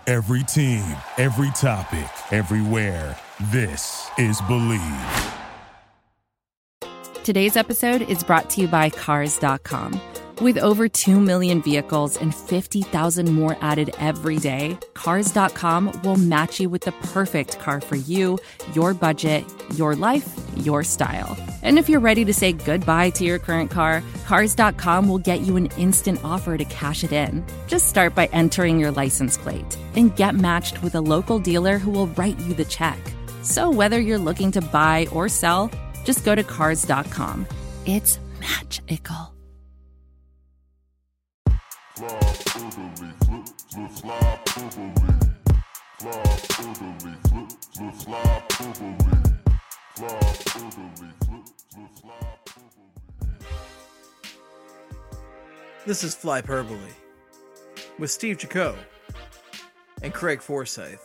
Every team, every topic, everywhere. This is Believe. Today's episode is brought to you by Cars.com. With over 2 million vehicles and 50,000 more added every day, Cars.com will match you with the perfect car for you, your budget, your life, your style. And if you're ready to say goodbye to your current car, Cars.com will get you an instant offer to cash it in. Just start by entering your license plate and get matched with a local dealer who will write you the check. So whether you're looking to buy or sell, just go to Cars.com. It's magical. This is Flyperbole with Steve Jaco and Craig Forsyth.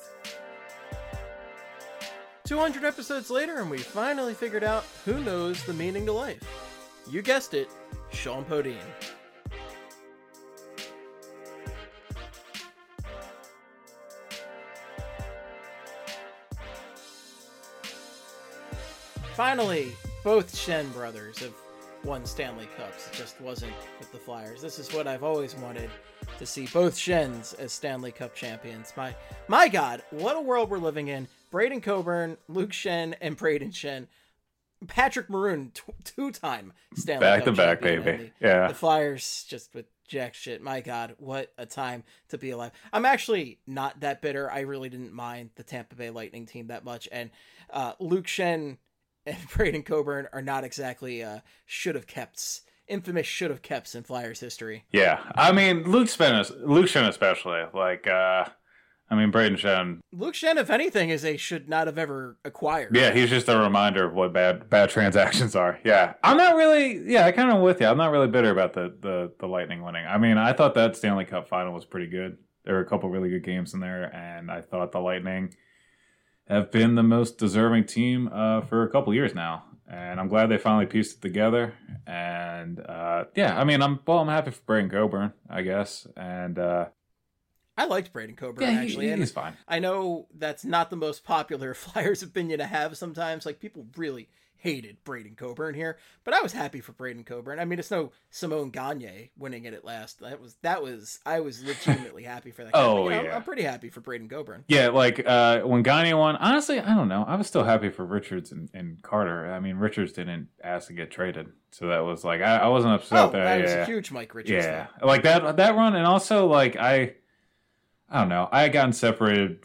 200 episodes later, and we finally figured out who knows the meaning to life. You guessed it, Sean Podine. Finally, both Shen brothers have won Stanley Cups. It just wasn't with the Flyers. This is what I've always wanted to see, both Shens as Stanley Cup champions. My God, what a world we're living in. Braden Coburn, Luke Schenn, and Braden Schenn. Patrick Maroon, two-time Stanley Cup champion. Back to back, baby. Yeah. The Flyers just with jack shit. My God, what a time to be alive. I'm actually not that bitter. I really didn't mind the Tampa Bay Lightning team that much. And Luke Schenn and Braden Coburn are not exactly infamous should have kept in Flyers history. Yeah. I mean, Luke Schenn especially. Braden Schenn. Luke Schenn, if anything, is a should not have ever acquired. Yeah, he's just a reminder of what bad transactions are. Yeah. I kind of with you. I'm not really bitter about the Lightning winning. I mean, I thought that Stanley Cup final was pretty good. There were a couple really good games in there, and I thought the Lightning have been the most deserving team for a couple years now, and I'm glad they finally pieced it together. And I'm happy for Braden Coburn, I guess. And I liked Braden Coburn actually. He's fine. I know that's not the most popular Flyers opinion to have sometimes. Like, people really hated Braden Coburn here, but I was happy for Braden Coburn. I mean, it's no Simone Gagne winning it at last. I was legitimately happy for that. Yeah. I'm pretty happy for Braden Coburn. Yeah, when Gagne won, honestly, I don't know. I was still happy for Richards and Carter. I mean, Richards didn't ask to get traded, so that was I wasn't upset there. I was a huge Mike Richards fan. Like that run, and also I don't know. I had gotten separated.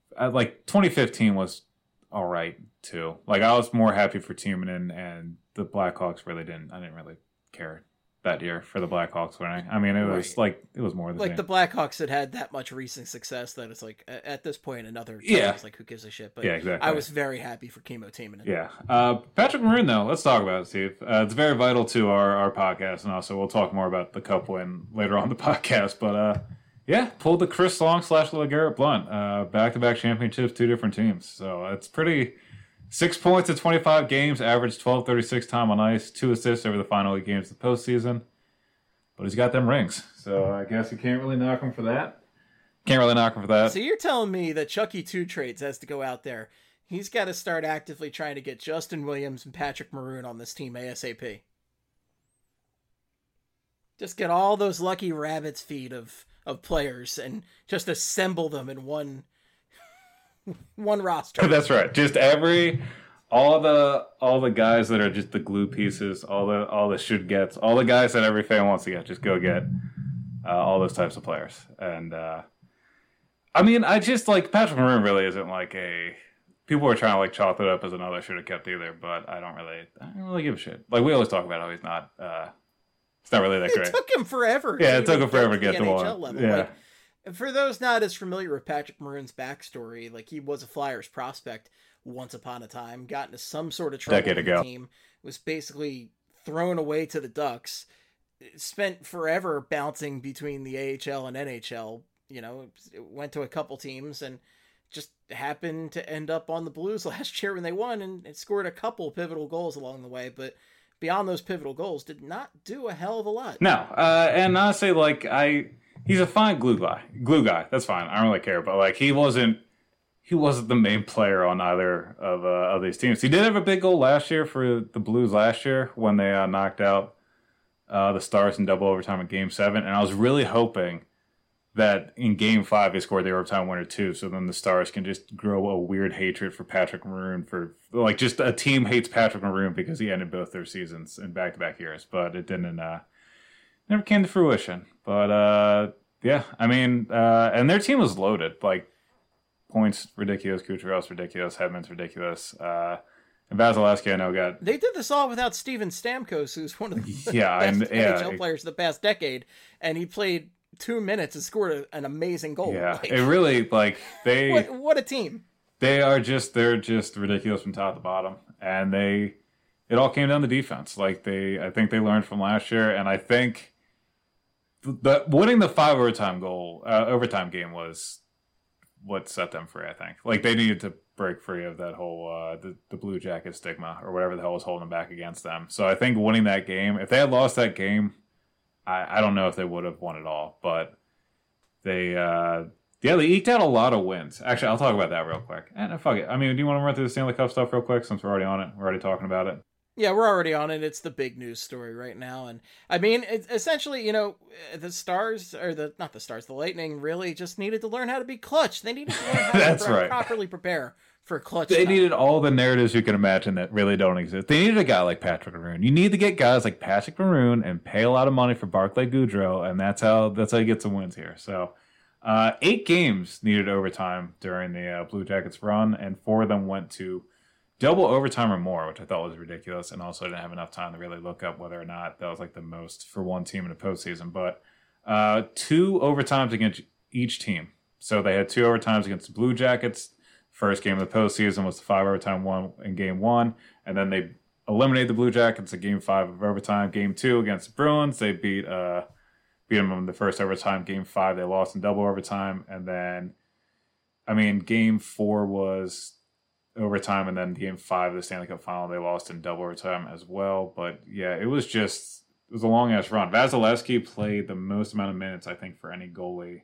2015 was all right too. I was more happy for Timonen, and the Blackhawks I didn't really care that year for the Blackhawks winning. I mean, it was it was more than the Blackhawks had that much recent success that it's at this point another time, it's who gives a shit. But yeah, exactly. I was very happy for Kimmo Timonen. Yeah. Patrick Maroon though, let's talk about it, Steve. It's very vital to our podcast, and also we'll talk more about the Cup win later on the podcast. But pulled the Chris Long / LeGarrette Blount back-to-back championships, two different teams. So it's pretty. 6 points in 25 games, averaged 12:36 time on ice, 2 assists over the final 8 games of the postseason. But he's got them rings, so I guess you can't really knock him for that. So you're telling me that Chucky 2 Trades has to go out there. He's got to start actively trying to get Justin Williams and Patrick Maroon on this team ASAP. Just get all those lucky rabbit's feet of players and just assemble them in one roster. That's right. Just all the guys that are just the glue pieces, all the should gets, all the guys that every fan wants to get. Just go get all those types of players. And I just Patrick Maroon really isn't people are trying to chalk it up as another should have kept either. But I don't really give a shit. We always talk about how he's not. It's not really that great. It took him forever. Yeah, it took him forever to get to NHL one. level. Yeah. For those not as familiar with Patrick Maroon's backstory, he was a Flyers prospect once upon a time, got into some sort of trouble with the team, was basically thrown away to the Ducks, spent forever bouncing between the AHL and NHL, went to a couple teams and just happened to end up on the Blues last year when they won and scored a couple pivotal goals along the way, but beyond those pivotal goals, did not do a hell of a lot. No, and honestly, he's a fine glue guy. That's fine. I don't really care. But like he wasn't the main player on either of these teams. He did have a big goal last year for the Blues last year when they knocked out the Stars in double overtime in Game 7. And I was really hoping that in Game 5 they scored the overtime winner too, so then the Stars can just grow a weird hatred for Patrick Maroon for like just a team hates Patrick Maroon because he ended both their seasons in back-to-back years, but it didn't never came to fruition. But yeah, I mean, and their team was loaded. Like points ridiculous, Kucherov ridiculous, Hedman's ridiculous. And Vasilevsky, I know, They did this all without Steven Stamkos, who's one of the best NHL players of the past decade, and he played 2 minutes and scored an amazing goal. Yeah, like, it really like they. What a team! They're just ridiculous from top to bottom, and it all came down to defense. Like I think they learned from last year, and I think winning the 5 overtime game was what set them free. I think like they needed to break free of that whole the Blue Jacket stigma or whatever the hell was holding them back against them. So I think winning that game, if they had lost that game, I don't know if they would have won it all, but they eked out a lot of wins. Actually, I'll talk about that real quick. And fuck it. I mean, do you want to run through the Stanley Cup stuff real quick since we're already on it? We're already talking about it. Yeah, we're already on it. It's the big news story right now. And I mean, it's essentially, the Lightning really just needed to learn how to be clutch. They needed to learn how to properly prepare for clutch. They needed all the narratives you can imagine that really don't exist. They needed a guy like Patrick Maroon. You need to get guys like Patrick Maroon and pay a lot of money for Barclay Goodrow, and that's how you get some wins here. So 8 games needed overtime during the Blue Jackets run, and 4 of them went to double overtime or more, which I thought was ridiculous, and also didn't have enough time to really look up whether or not that was like the most for one team in the postseason. But 2 overtimes against each team. So they had 2 overtimes against the Blue Jackets. First game of the postseason was the 5 overtime one in Game 1, and then they eliminated the Blue Jackets in Game 5 of overtime. Game 2 against the Bruins, they beat them in the first overtime. Game 5, they lost in double overtime, and then, I mean, Game 4 was overtime, and then Game 5 of the Stanley Cup Final, they lost in double overtime as well. But yeah, it was a long ass run. Vasilevsky played the most amount of minutes, I think, for any goalie.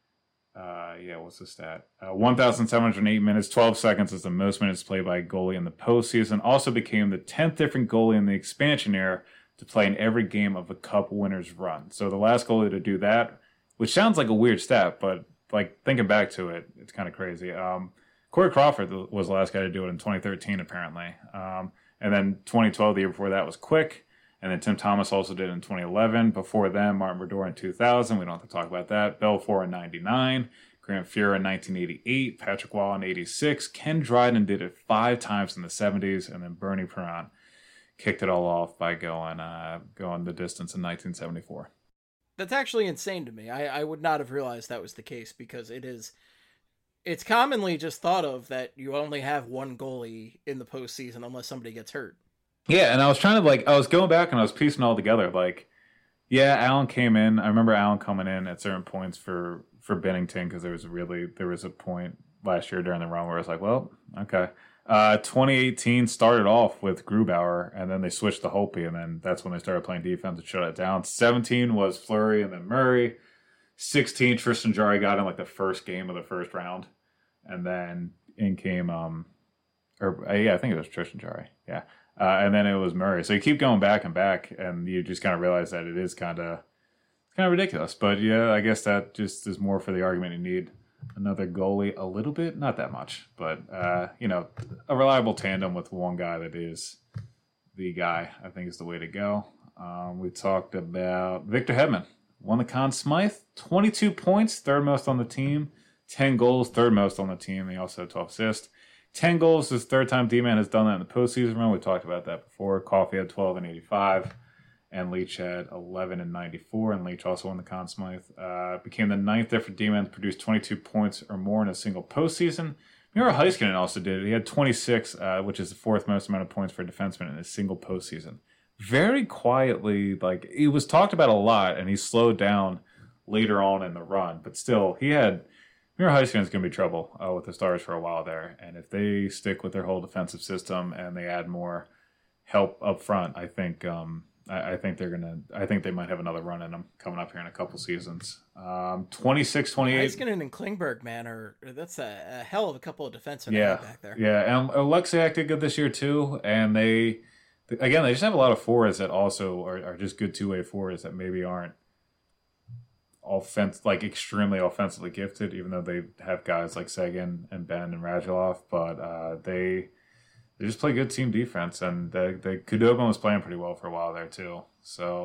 What's the stat? 1,708 minutes, 12 seconds is the most minutes played by a goalie in the postseason. Also became the 10th different goalie in the expansion era to play in every game of a Cup winners run. So the last goalie to do that, which sounds like a weird stat, but like thinking back to it, it's kind of crazy. Corey Crawford was the last guy to do it in 2013, apparently. And then 2012, the year before that, was Quick. And then Tim Thomas also did it in 2011. Before them, Martin Brodeur in 2000. We don't have to talk about that. Belfour in 99. Grant Fuhrer in 1988. Patrick Wall in 86. Ken Dryden did it 5 times in the 70s. And then Bernie Perron kicked it all off by going the distance in 1974. That's actually insane to me. I would not have realized that was the case because it's commonly just thought of that you only have one goalie in the postseason unless somebody gets hurt. Yeah, and I was trying to I was going back and I was piecing it all together. Like, yeah, Allen came in. I remember Allen coming in at certain points for Binnington because there was a point last year during the run where I was like, well, okay. 2018 started off with Grubauer, and then they switched to Holtby, and then that's when they started playing defense and shut it down. 17 was Fleury and then Murray. 16, Tristan Jarry got in like the first game of the first round, and then in came I think it was Tristan Jarry, yeah. And then it was Murray. So you keep going back and back, and you just kind of realize that it is kind of ridiculous. But yeah, I guess that just is more for the argument you need another goalie a little bit, not that much, but a reliable tandem with one guy that is the guy, I think is the way to go. We talked about Victor Hedman. Won the Conn Smythe, 22 points, third most on the team, 10 goals, third most on the team. He also had 12 assists. 10 goals, his third time D-Man has done that in the postseason run. We talked about that before. Coffey had 12 and 85, and Leach had 11 and 94, and Leach also won the Conn Smythe. Became the 9th different D-Man to produce 22 points or more in a single postseason. Miro Heiskanen also did it. He had 26, which is the 4th most amount of points for a defenseman in a single postseason. Very quietly, it was talked about a lot, and he slowed down later on in the run, but still, Miro Heiskanen's going to be trouble with the Stars for a while there, and if they stick with their whole defensive system and they add more help up front, I think I think they might have another run in them coming up here in a couple seasons. 26-28. Heiskanen and Klingberg, man, that's a hell of a couple of defensemen back there. Yeah, and Oleksiak did good this year too, and they just have a lot of forwards that also are just good two-way forwards that maybe aren't extremely offensively gifted, even though they have guys like Seguin and Ben and Radulov, but they just play good team defense, and Khudobin was playing pretty well for a while there too. So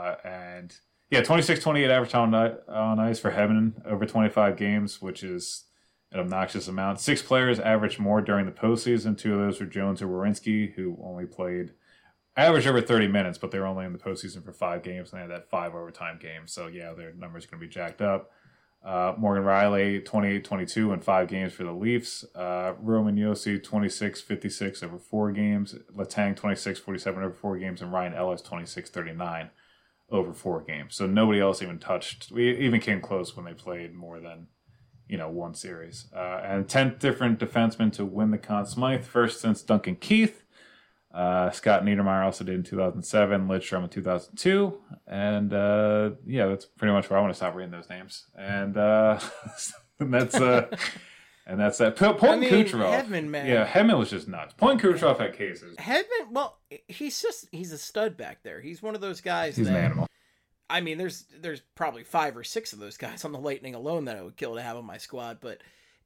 26-28 average on ice for Hedman over 25 games, which is an obnoxious amount. 6 players averaged more during the postseason. 2 of those were Jones or Werenski, who only averaged over 30 minutes, but they were only in the postseason for 5 games, and they had that 5 overtime game. So yeah, their numbers going to be jacked up. Morgan Riley, 28-22 in 5 games for the Leafs. Roman Josi, 26-56 over 4 games. Letang, 26-47 over 4 games. And Ryan Ellis, 26-39 over 4 games. So nobody else even came close when they played more than, one series. And 10th different defensemen to win the Conn Smythe, first since Duncan Keith. Scott Niedermayer also did in 2007, Lidstrom in 2002, and that's pretty much where I want to stop reading those names. And that's that. Kucherov, Hedman, man. Yeah, Hedman was just nuts. Point Kucherov had cases. Hedman, well, he's a stud back there. He's one of those guys. He's an animal. I mean, there's probably 5 or 6 of those guys on the Lightning alone that I would kill to have on my squad, but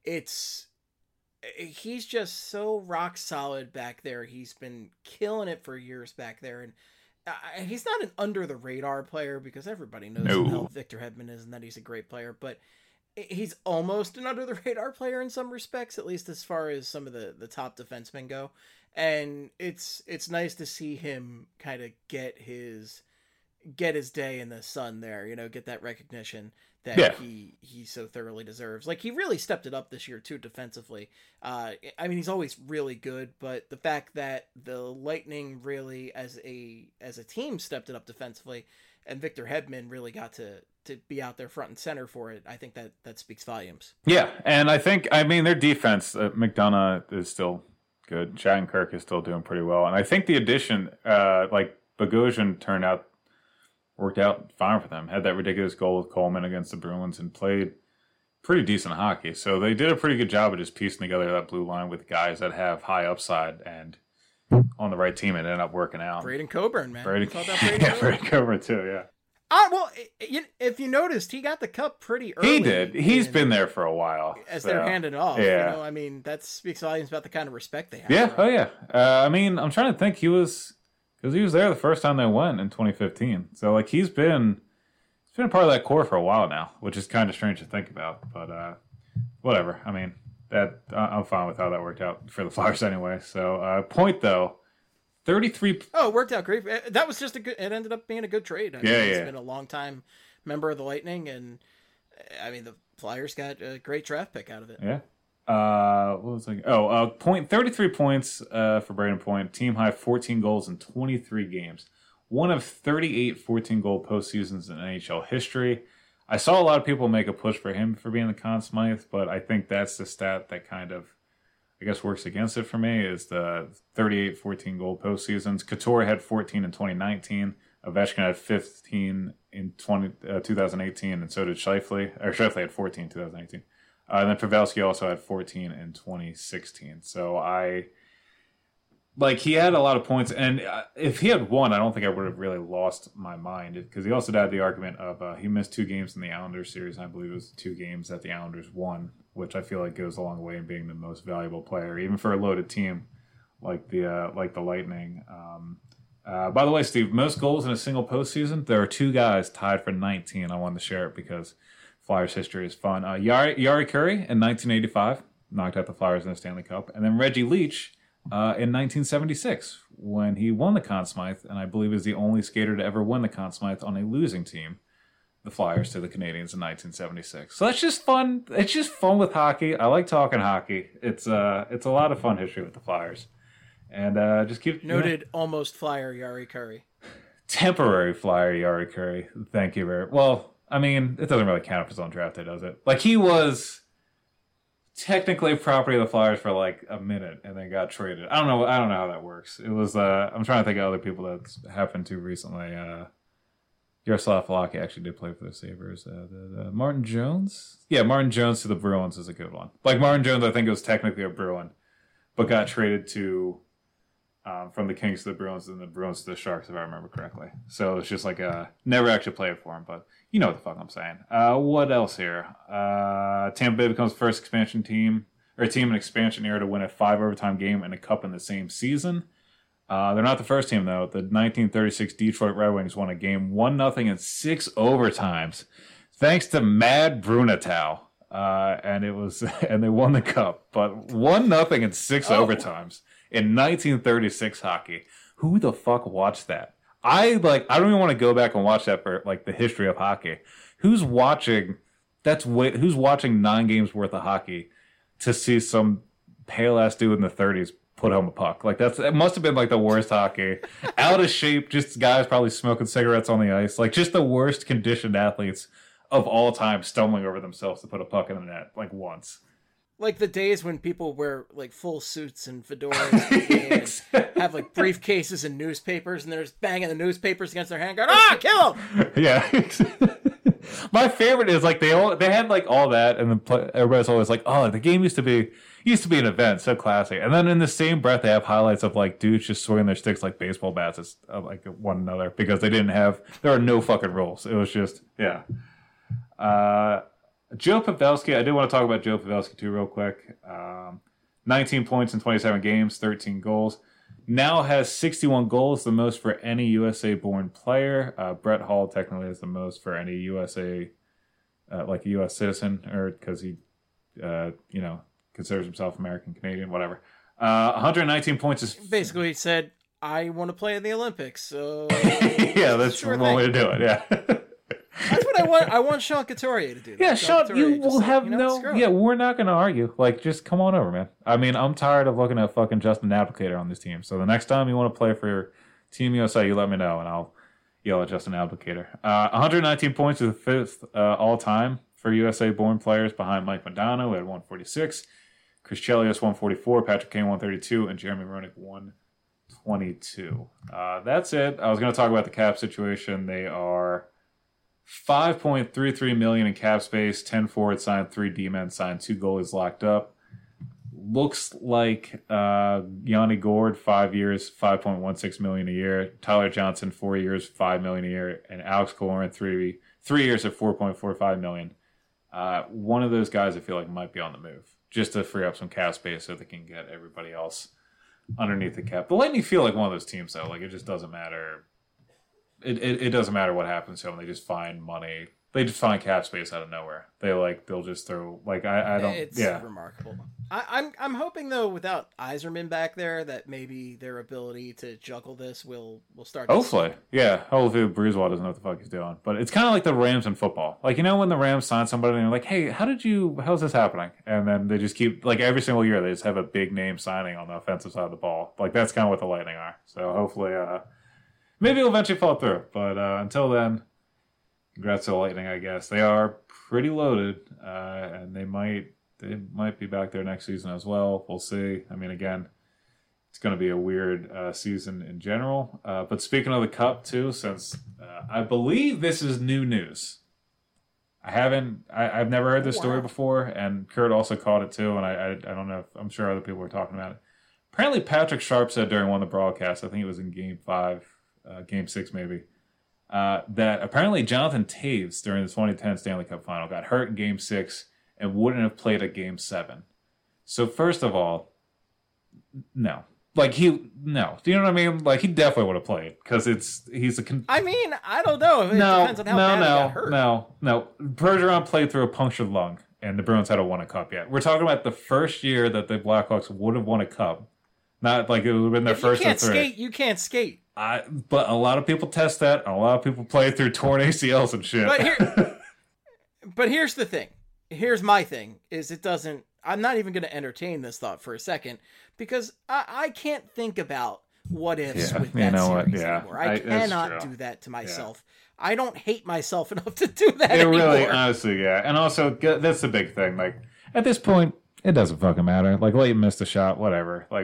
he's just so rock solid back there. He's been killing it for years back there, and he's not an under the radar player because everybody knows how Victor Hedman is and that he's a great player, but he's almost an under the radar player in some respects, at least as far as some of the top defensemen go. And it's nice to see him kind of get his day in the sun there, get that recognition that he so thoroughly deserves. Like, he really stepped it up this year too defensively. I mean, he's always really good, but the fact that the Lightning really as a team stepped it up defensively, and Victor Hedman really got to be out there front and center for it, I think that speaks volumes. Yeah, and I think, their defense, McDonough is still good. Shattenkirk is still doing pretty well, and I think the addition, Bogosian worked out fine for them. Had that ridiculous goal with Coleman against the Bruins and played pretty decent hockey. So they did a pretty good job of just piecing together that blue line with guys that have high upside, and on the right team it ended up working out. Braden Coburn, man. Braden Coburn too, yeah. Well, if you noticed, he got the cup pretty early. He did. He's been there for a while. As they're handing it off. Yeah. That speaks volumes about the kind of respect they have. Yeah, oh yeah. I'm trying to think. Because he was there the first time they went in 2015. So, he's been a part of that core for a while now, which is kind of strange to think about. But whatever. I'm fine with how that worked out for the Flyers anyway. So, point, though, 33... Oh, it worked out great. That was just it ended up being a good trade. He's been a long-time member of the Lightning, and, the Flyers got a great draft pick out of it. Yeah. What was I? 33 points for Braden Point. Team high 14 goals in 23 games. One of 38 14-goal postseasons in NHL history. I saw a lot of people make a push for him for being the Conn Smythe, but I think that's the stat that kind of, works against it for me, is the 38 14-goal postseasons. Couture had 14 in 2019. Ovechkin had 15 in 2018, and so did Scheifele. Or Scheifele had 14 in 2018. And then Pavelski also had 14 in 2016. So he had a lot of points. And if he had won, I don't think I would have really lost my mind. Because he also had the argument of he missed 2 games in the Islanders series. And I believe it was 2 games that the Islanders won, which I feel like goes a long way in being the most valuable player, even for a loaded team like the Lightning. By the way, Steve, most goals in a single postseason, there are 2 guys tied for 19. I wanted to share it because Flyers history is fun. Yari Curry in 1985 knocked out the Flyers in the Stanley Cup, and then Reggie Leach in 1976 when he won the Conn Smythe, and I believe is the only skater to ever win the Conn Smythe on a losing team, the Flyers to the Canadiens in 1976. So that's just fun. It's just fun with hockey. I like talking hockey. It's a lot of fun history with the Flyers, and just keep noted. Almost Flyer Yari Curry, temporary Flyer Yari Curry. Thank you very well. It doesn't really count if it's on draft day, does it? He was technically property of the Flyers for like a minute and then got traded. I don't know how that works. It was I'm trying to think of other people that's happened to recently. Yaroslav Halak actually did play for the Sabres. Martin Jones? Yeah, Martin Jones to the Bruins is a good one. Like Martin Jones, I think it was technically a Bruin, but got traded to from the Kings to the Bruins and the Bruins to the Sharks, if I remember correctly. So it's just like never actually played for him, but you know what the fuck I'm saying. What else here? Tampa Bay becomes the first expansion team in expansion era to win a 5 overtime game and a cup in the same season. They're not the first team though. The 1936 Detroit Red Wings won a game 1-0 in 6 overtimes, thanks to Mad Brunatow. And they won the cup, but 1-0 in 6 overtimes in 1936 hockey. Who the fuck watched that? I don't even want to go back and watch that for like the history of hockey. Who's watching 9 games worth of hockey to see some pale ass dude in the 30s put home a puck? Like it must have been like the worst hockey. Out of shape, just guys probably smoking cigarettes on the ice. Like just the worst conditioned athletes of all time stumbling over themselves to put a puck in the net like once. Like the days when people wear like full suits and fedoras and have like briefcases and newspapers, and they're just banging the newspapers against their hand, going, kill him! Yeah. My favorite is like they had like all that, and then everybody's always like, oh, the game used to be an event, so classic. And then in the same breath, they have highlights of like dudes just swinging their sticks like baseball bats at like one another because there are no fucking rules. It was just Joe Pavelski, I did want to talk about Joe Pavelski too real quick. 19 points in 27 games, 13 goals. Now has 61 goals, the most for any USA-born player. Brett Hall technically has the most for any USA, like a U.S. citizen, or because he, considers himself American, Canadian, whatever. 119 points is... Basically said, I want to play in the Olympics, so... Yeah, that's one way to do it, yeah. That's what I want. I want Sean Couturier to do that. Yeah, Sean, you will have we're not going to argue. Like, just come on over, man. I mean, I'm tired of looking at fucking Justin Abdelkader on this team. So the next time you want to play for Team USA, you let me know, and I'll yell at Justin Abdelkader. 119 points is the fifth all-time for USA-born players behind Mike Modano, who had 146. Chris Chelios, 144. Patrick Kane, 132. And Jeremy Roenick, 122. That's it. I was going to talk about the cap situation. They are... $5.33 million in cap space, 10 forwards signed, 3 D-men signed, 2 goalies locked up. Looks like Yanni Gourde, 5 years, $5.16 million a year. Tyler Johnson, 4 years, $5 million a year, and Alex Killorn, 3 years at $4.45 million. One of those guys I feel like might be on the move, just to free up some cap space so they can get everybody else underneath the cap. The Lightning feel like one of those teams though, like it just doesn't matter. It doesn't matter what happens to them. They just find money. They just find cap space out of nowhere. They'll just throw like I don't. It's remarkable. I'm hoping though, without Yzerman back there, that maybe their ability to juggle this will start. Hopefully, hopefully Brisebois doesn't know what the fuck he's doing. But it's kind of like the Rams in football. Like when the Rams sign somebody and they're like, "Hey, how's this happening?" And then they just keep like every single year they just have a big name signing on the offensive side of the ball. Like that's kind of what the Lightning are. So hopefully. Maybe it'll eventually fall through, but until then, congrats to the Lightning, I guess. They are pretty loaded, and they might be back there next season as well. We'll see. I mean, again, it's going to be a weird season in general. But speaking of the Cup, too, since I believe this is new news. I've never heard this story before, and Kurt also caught it, too, and I don't know if I'm sure other people were talking about it. Apparently, Patrick Sharp said during one of the broadcasts, I think it was in Game 5, Game 6 maybe, that apparently Jonathan Toews during the 2010 Stanley Cup Final got hurt in Game 6 and wouldn't have played at Game 7. So first of all, no. Like do you know what I mean? Like he definitely would have played because I mean, I don't know. It depends on how bad he got hurt. No. Bergeron played through a punctured lung, and the Bruins hadn't won a cup yet. We're talking about the first year that the Blackhawks would have won a cup. Not like it would have been their first or third. You can't skate. But a lot of people test that. A lot of people play through torn ACLs and shit. But here's the thing. Here's my thing. Is it doesn't... I'm not even going to entertain this thought for a second because I can't think about what ifs with that series anymore. I cannot do that to myself. Yeah. I don't hate myself enough to do that anymore. Really, honestly, yeah. And also, that's the big thing. Like, at this point, It doesn't fucking matter. Like, Leighton missed a shot, whatever. Like,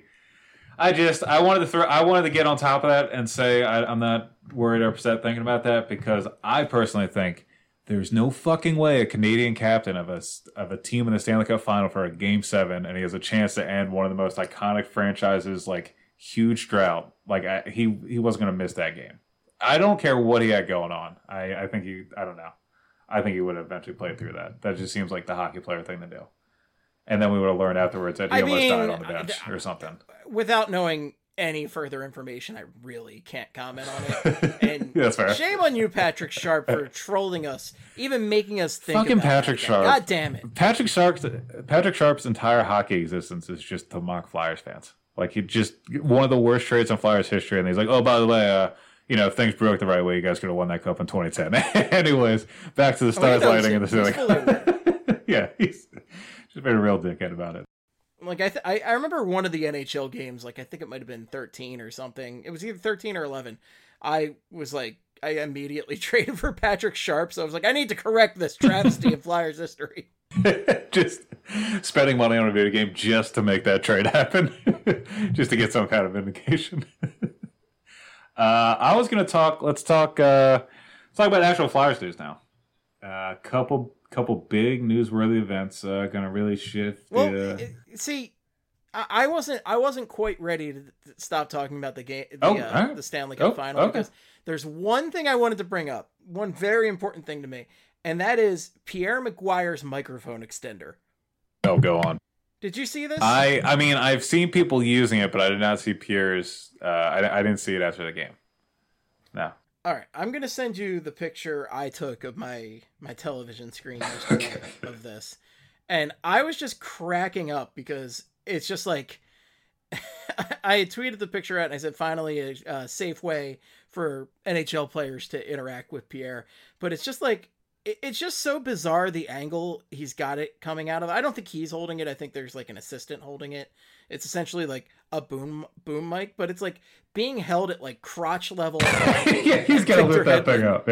I wanted to get on top of that and say I'm not worried or upset thinking about that, because I personally think there's no fucking way a Canadian captain of a team in the Stanley Cup Final for a Game 7, and he has a chance to end one of the most iconic franchises, like, huge drought. Like, he wasn't going to miss that game. I don't care what he had going on. I think I don't know. I think he would have eventually played through that. That just seems like the hockey player thing to do. And then we would have learned afterwards that he almost died on the bench or something. Without knowing any further information, I really can't comment on it. And that's fair. Shame on you, Patrick Sharp, for trolling us, even making us think fucking about Patrick Sharp. God damn it. Patrick Sharp's entire hockey existence is just to mock Flyers fans. Like, he just one of the worst trades in Flyers history, and he's like, oh, by the way, if things broke the right way, you guys could have won that cup in 2010. Anyways, back to the Stars lighting in the ceiling. Yeah, he's just been a real dickhead about it. Like, I remember one of the NHL games, like, I think it might have been 13 or something. It was either 13 or 11. I immediately traded for Patrick Sharp, so I was like, I need to correct this travesty of Flyers history. Just spending money on a video game just to make that trade happen. Just to get some kind of vindication. Let's talk about actual Flyers news now. Couple big newsworthy events gonna really shift. See, I wasn't quite ready to stop talking about the game, the Stanley Cup Final, because there's one thing I wanted to bring up, one very important thing to me, and that is Pierre McGuire's microphone extender. Oh, go on. Did you see this? I mean, I've seen people using it, but I did not see Pierre's. I didn't see it after the game. No. All right, I'm going to send you the picture I took of my television screen yesterday of this. And I was just cracking up because it's just like, I had tweeted the picture out and I said, finally a safe way for NHL players to interact with Pierre. But it's just like, it's just so bizarre, the angle he's got it coming out of. I don't think he's holding it. I think there's like an assistant holding it. It's essentially like a boom mic, but it's like being held at like crotch level. Yeah, he's got to lift that thing up.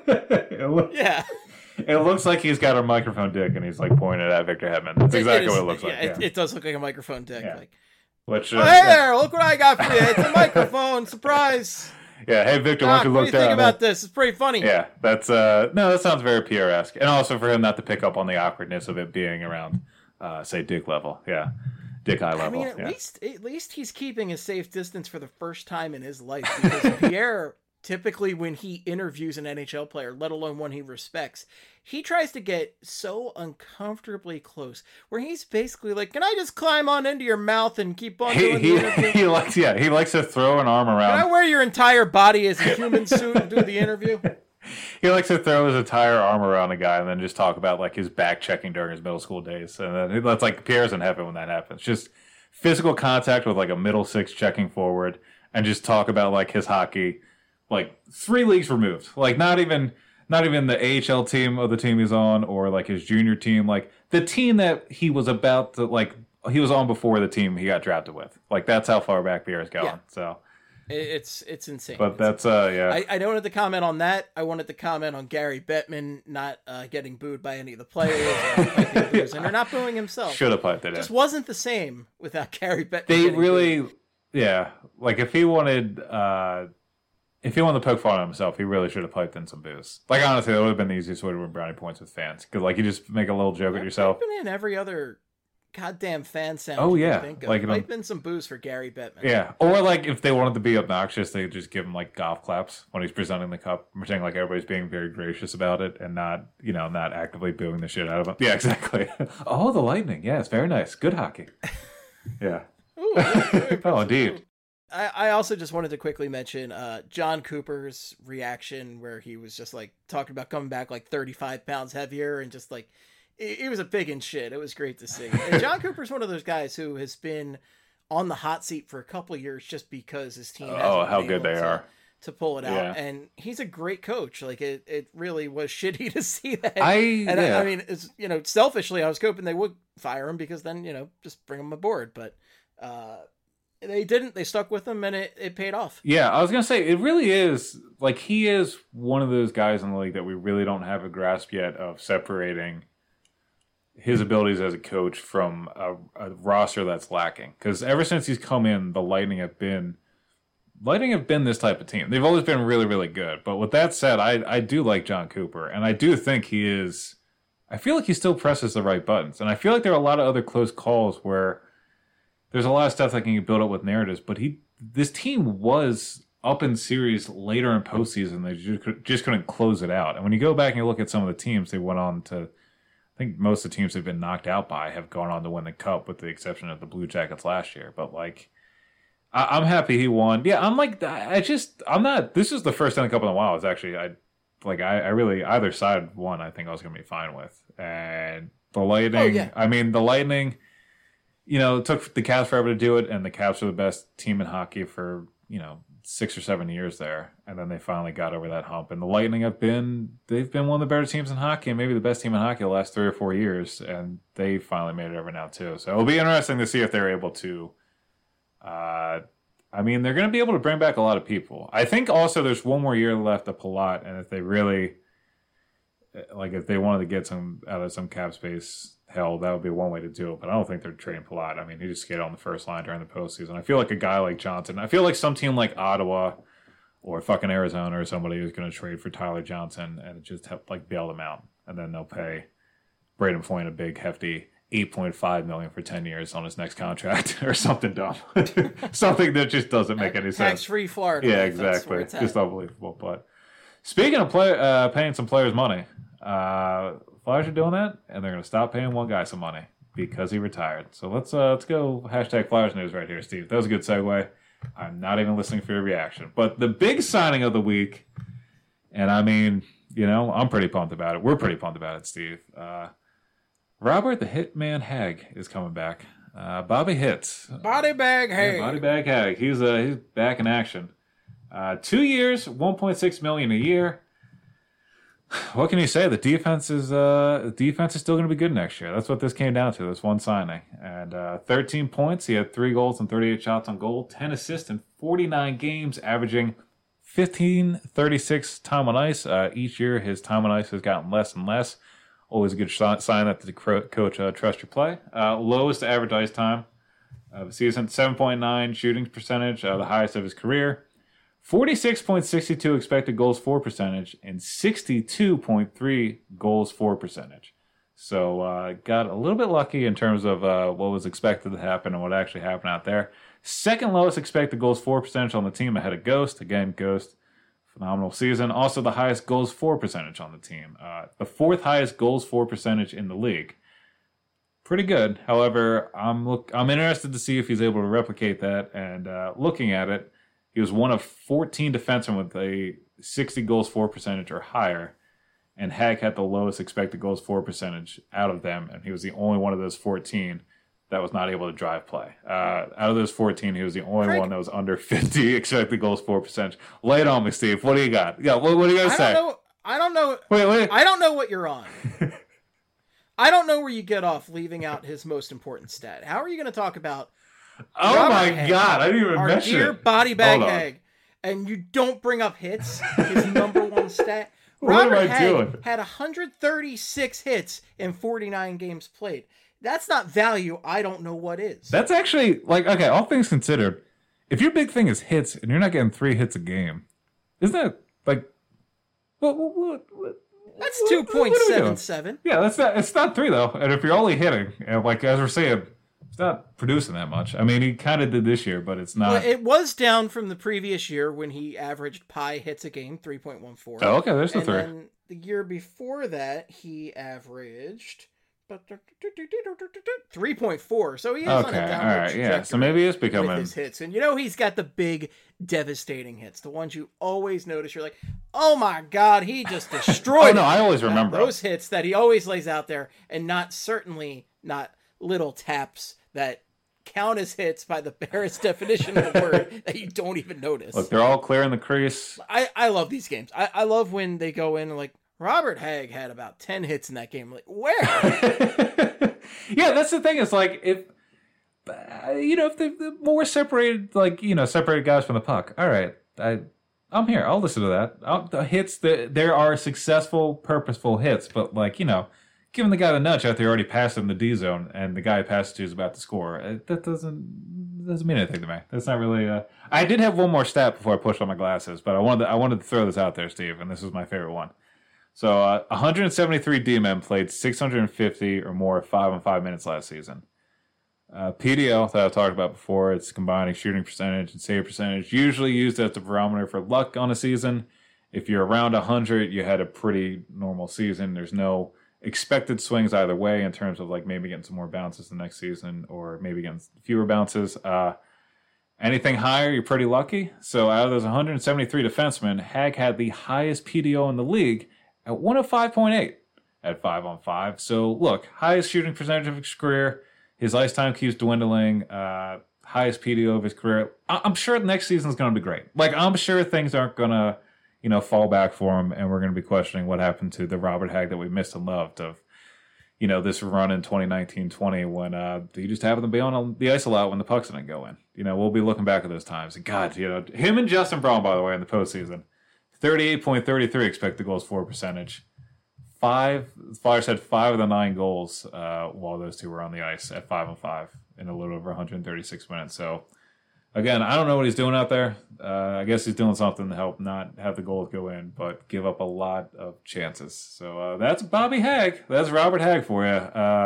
Yeah. It looks like he's got a microphone dick and he's like pointing at Victor Hedman. That's exactly what it looks like. Yeah. It does look like a microphone dick. Yeah. Like, which, hey there, look what I got for you. It's a microphone. Surprise. Yeah, hey Victor, why don't you look down? What do you think about this? It's pretty funny. Yeah, that sounds very Pierre-esque. And also for him not to pick up on the awkwardness of it being around, say, dick level. Yeah. Dick eye level. I mean, at least he's keeping a safe distance for the first time in his life, because Pierre, typically when he interviews an NHL player, let alone one he respects, he tries to get so uncomfortably close, where he's basically like, can I just climb on into your mouth and keep on doing the interview? He likes to throw an arm around. Can I wear your entire body as a human suit and do the interview? He likes to throw his entire arm around a guy and then just talk about like his back checking during his middle school days. And then that's like Pierre's in heaven when that happens. Just physical contact with like a middle six checking forward and just talk about like his hockey, like 3 leagues removed. Like not even the AHL team of the team he's on, or like his junior team, like the team that he was about to, like he was on before the team he got drafted with. Like that's how far back Pierre's going. Yeah. So it's insane. But that's yeah. I wanted to comment on that. I wanted to comment on Gary Bettman not getting booed by any of the players, and they're not booing himself. Should have piped it in. Just wasn't the same without Gary Bettman. They really, booed. Yeah. Like if he wanted to poke fun at himself, he really should have piped in some boos. Like honestly, that would have been the easiest way to win brownie points with fans. Because like you just make a little joke at yourself. Been in every other goddamn fan sound. Oh yeah, think of. Like might been some boos for Gary Bettman. Yeah, or like if they wanted to be obnoxious, they just give him like golf claps when he's presenting the cup, pretending like everybody's being very gracious about it and not actively booing the shit out of him. Yeah, exactly. Oh, the Lightning. Yeah, it's very nice. Good hockey. Yeah. Ooh, oh, indeed. I also just wanted to quickly mention John Cooper's reaction, where he was just like talking about coming back like 35 pounds heavier and just like. It was a pig in shit. It was great to see. And John Cooper's one of those guys who has been on the hot seat for a couple of years just because his team hasn't how been good they are to pull it out. And he's a great coach. Like it really was shitty to see that. I mean, it's, selfishly, I was hoping they would fire him because then, just bring him aboard. But they didn't. They stuck with him and it paid off. Yeah, I was going to say, it really is, like, he is one of those guys in the league that we really don't have a grasp yet of separating his abilities as a coach from a roster that's lacking. Because ever since he's come in, the Lightning have been this type of team. They've always been really, really good. But with that said, I do like John Cooper, and I do think he is. I feel like he still presses the right buttons, and I feel like there are a lot of other close calls where there's a lot of stuff that can build up with narratives. But this team was up in series later in postseason. They just couldn't close it out. And when you go back and you look at some of the teams they went on to, I think most of the teams they've been knocked out by have gone on to win the Cup, with the exception of the Blue Jackets last year. But like, I'm happy he won. Yeah, I'm not. This is the first Stanley Cup in a while. It's actually I really, either side won. I think I was going to be fine with. And the Lightning. Oh, yeah. I mean, the Lightning. It took the Caps forever to do it, and the Caps are the best team in hockey for 6 or 7 years there, and then they finally got over that hump. And the Lightning they've been one of the better teams in hockey, and maybe the best team in hockey the last 3 or 4 years, and they finally made it over now too. So it'll be interesting to see if they're able to. They're going to be able to bring back a lot of people. I think also there's one more year left of Palat, and if they really, if they wanted to get some out of some cap space, hell, that would be one way to do it. But I don't think they're trading Palat. I mean, he just skated on the first line during the postseason. I feel like a guy like Johnson. I feel like some team like Ottawa or fucking Arizona or somebody who's going to trade for Tyler Johnson and just bail them out, and then they'll pay Braden Point a big hefty $8.5 million for 10 years on his next contract or something dumb, something that just doesn't make any sense. Tax-free Florida. Yeah, exactly. Just unbelievable. But speaking of paying some players money. Flyers are doing that, and they're going to stop paying one guy some money because he retired. So let's go hashtag Flyers news right here, Steve. That was a good segue. I'm not even listening for your reaction. But the big signing of the week, and I mean, I'm pretty pumped about it. We're pretty pumped about it, Steve. Robert the Hitman Hagg is coming back. Bobby Hits. Body Bag Hagg. Body Bag Hagg. He's back in action. 2 years, $1.6 million a year. What can you say? The defense is still going to be good next year. That's what this came down to, this one signing. And 13 points. He had 3 goals and 38 shots on goal, 10 assists in 49 games, averaging 15.36 time on ice. Each year, his time on ice has gotten less and less. Always a good sign that the coach trusts your play. Lowest average ice time of the season, 7.9 shooting percentage, the highest of his career. 46.62 expected goals for percentage and 62.3 goals for percentage. So got a little bit lucky in terms of what was expected to happen and what actually happened out there. Second lowest expected goals for percentage on the team ahead of Ghost. Again, Ghost, phenomenal season. Also the highest goals for percentage on the team. The 4th highest goals for percentage in the league. Pretty good. However, I'm interested to see if he's able to replicate that. And looking at it, he was one of 14 defensemen with a 60 goals for percentage or higher, and Hagg had the lowest expected goals for percentage out of them, and he was the only one of those 14 that was not able to drive play. Out of those 14, he was the only one that was under 50 expected goals for percentage. Lay it on me, Steve. What do you got? Yeah, what do you got to say? I don't know. Wait. I don't know what you're on. I don't know where you get off leaving out his most important stat. How are you going to talk about Robert my Hagg, God, I didn't even mention our dear Body Bag Hagg, and you don't bring up hits, his number one stat? Robert Hagg had 136 hits in 49 games played. That's not value. I don't know what is. That's actually, okay, all things considered, if your big thing is hits and you're not getting 3 hits a game, isn't that, what that's 2.77. Yeah, it's not 3, though. And if you're only hitting, and as we're saying, it's not producing that much. I mean, he kind of did this year, but it's not. Well, it was down from the previous year when he averaged pi hits a game, 3.14. Oh, okay, there's the 3. And then the year before that, he averaged 3.4. So he is on a downward trajectory. Yeah. So maybe it's becoming with his hits. And he's got the big, devastating hits, the ones you always notice. You're like, oh my God, he just destroyed. Oh no, I always remember those hits that he always lays out there, and not little taps that count as hits by the barest definition of the word that you don't even notice. Look, they're all clear in the crease. I love these games. I love when they go in and Robert Hagg had about 10 hits in that game. Where? Yeah, that's the thing. It's if the more separated, separated guys from the puck. All right, I'm here. I'll listen to that. The hits, there are successful, purposeful hits, but giving the guy the nudge after he already passed him the D zone, and the guy he passed to is about to score. That doesn't mean anything to me. That's not really. I did have one more stat before I pushed on my glasses, but I wanted to throw this out there, Steve, and this is my favorite one. So 173 D-men played 650 or more 5-on-5 minutes last season. PDO that I talked about before, it's combining shooting percentage and save percentage, usually used as the barometer for luck on a season. If you're around 100, you had a pretty normal season. There's no expected swings either way in terms of like maybe getting some more bounces the next season or maybe getting fewer bounces. Anything higher, you're pretty lucky. So out of those 173 defensemen, Hag had the highest PDO in the league at 105.8 at 5-on-5. So look, highest shooting percentage of his career. His ice time keeps dwindling. Highest PDO of his career. I'm sure next season is going to be great. Like, I'm sure things aren't going to, fall back for him, and we're going to be questioning what happened to the Robert Hag that we missed and loved of, this run in 2019-20 when he just happened to be on the ice a lot when the pucks didn't go in. We'll be looking back at those times. And God, him and Justin Braun, by the way, in the postseason, 38.33 expected goals for percentage. The Flyers had 5 of the 9 goals while those two were on the ice at 5-on-5 in a little over 136 minutes. So, again, I don't know what he's doing out there. I guess he's doing something to help not have the goals go in, but give up a lot of chances. So that's Bobby Hag. That's Robert Hag for you.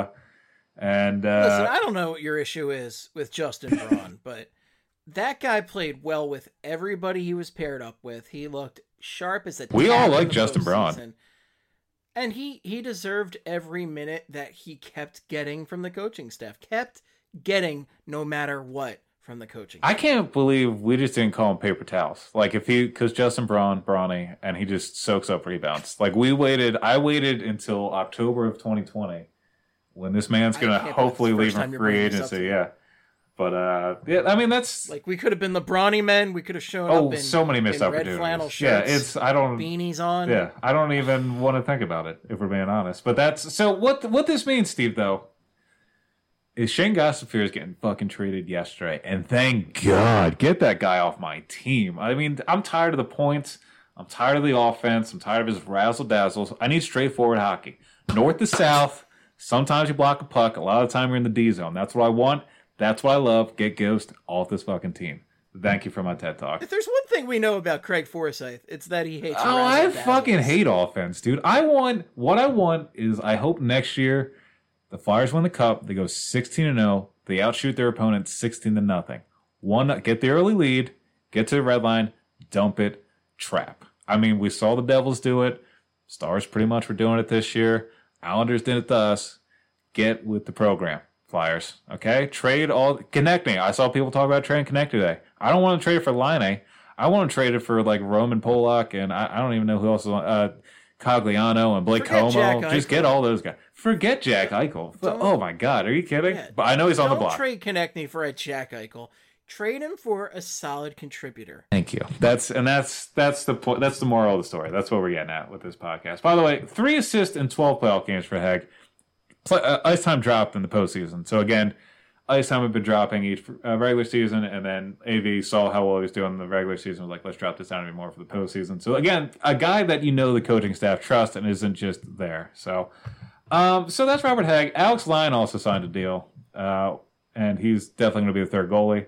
Listen, I don't know what your issue is with Justin Braun, but that guy played well with everybody he was paired up with. He looked sharp as a tack. We all like Justin Braun. And he deserved every minute that he kept getting from the coaching staff. Kept getting no matter what from the coaching staff. I can't believe we just didn't call him paper towels. Like, because Justin Brawny, and he just soaks up rebounds. Like, I waited until October of 2020 when this man's going to hopefully leave in free agency. Yeah. But, that's... Like, we could have been the Brawny men. We could have shown up in so many missed opportunities. Red flannel shirts, beanies on. Yeah, I don't even want to think about it, if we're being honest. But that's... So, what this means, Steve, though, is Shane Gostisbehere is getting fucking traded yesterday. And thank God, get that guy off my team. I mean, I'm tired of the points. I'm tired of the offense. I'm tired of his razzle-dazzles. I need straightforward hockey. North to south. Sometimes you block a puck. A lot of the time you're in the D zone. That's what I want. That's what I love. Get Ghost off this fucking team. Thank you for my TED Talk. If there's one thing we know about Craig Forsyth, it's that he hates. Oh, I fucking hate offense, dude. What I want is I hope next year the Flyers win the Cup. They go 16-0. They outshoot their opponent 16-0. Get the early lead, get to the red line, dump it, trap. I mean, we saw the Devils do it. Stars pretty much were doing it this year. Islanders did it to us. Get with the program. Flyers, okay? Connect me. I saw people talk about trading Connect today. I don't want to trade it for Laine. I want to trade it for like Roman Polak and I don't even know who else is on Cogliano and Blake Como. Just get all those guys. Forget Jack Eichel. Oh my God, are you kidding? Yeah, but I know he's on the block. Don't trade Konechny for a Jack Eichel. Trade him for a solid contributor. Thank you. That's the point. That's the moral of the story. That's what we're getting at with this podcast. By the way, 3 assists in 12 playoff games for Hag. Ice time dropped in the postseason. So again, ice time had been dropping each regular season, and then AV saw how well he was doing in the regular season. Was like, let's drop this down even more for the postseason. So again, a guy that the coaching staff trusts and isn't just there. So that's Robert Hag. Alex Lyon also signed a deal, and he's definitely going to be the third goalie.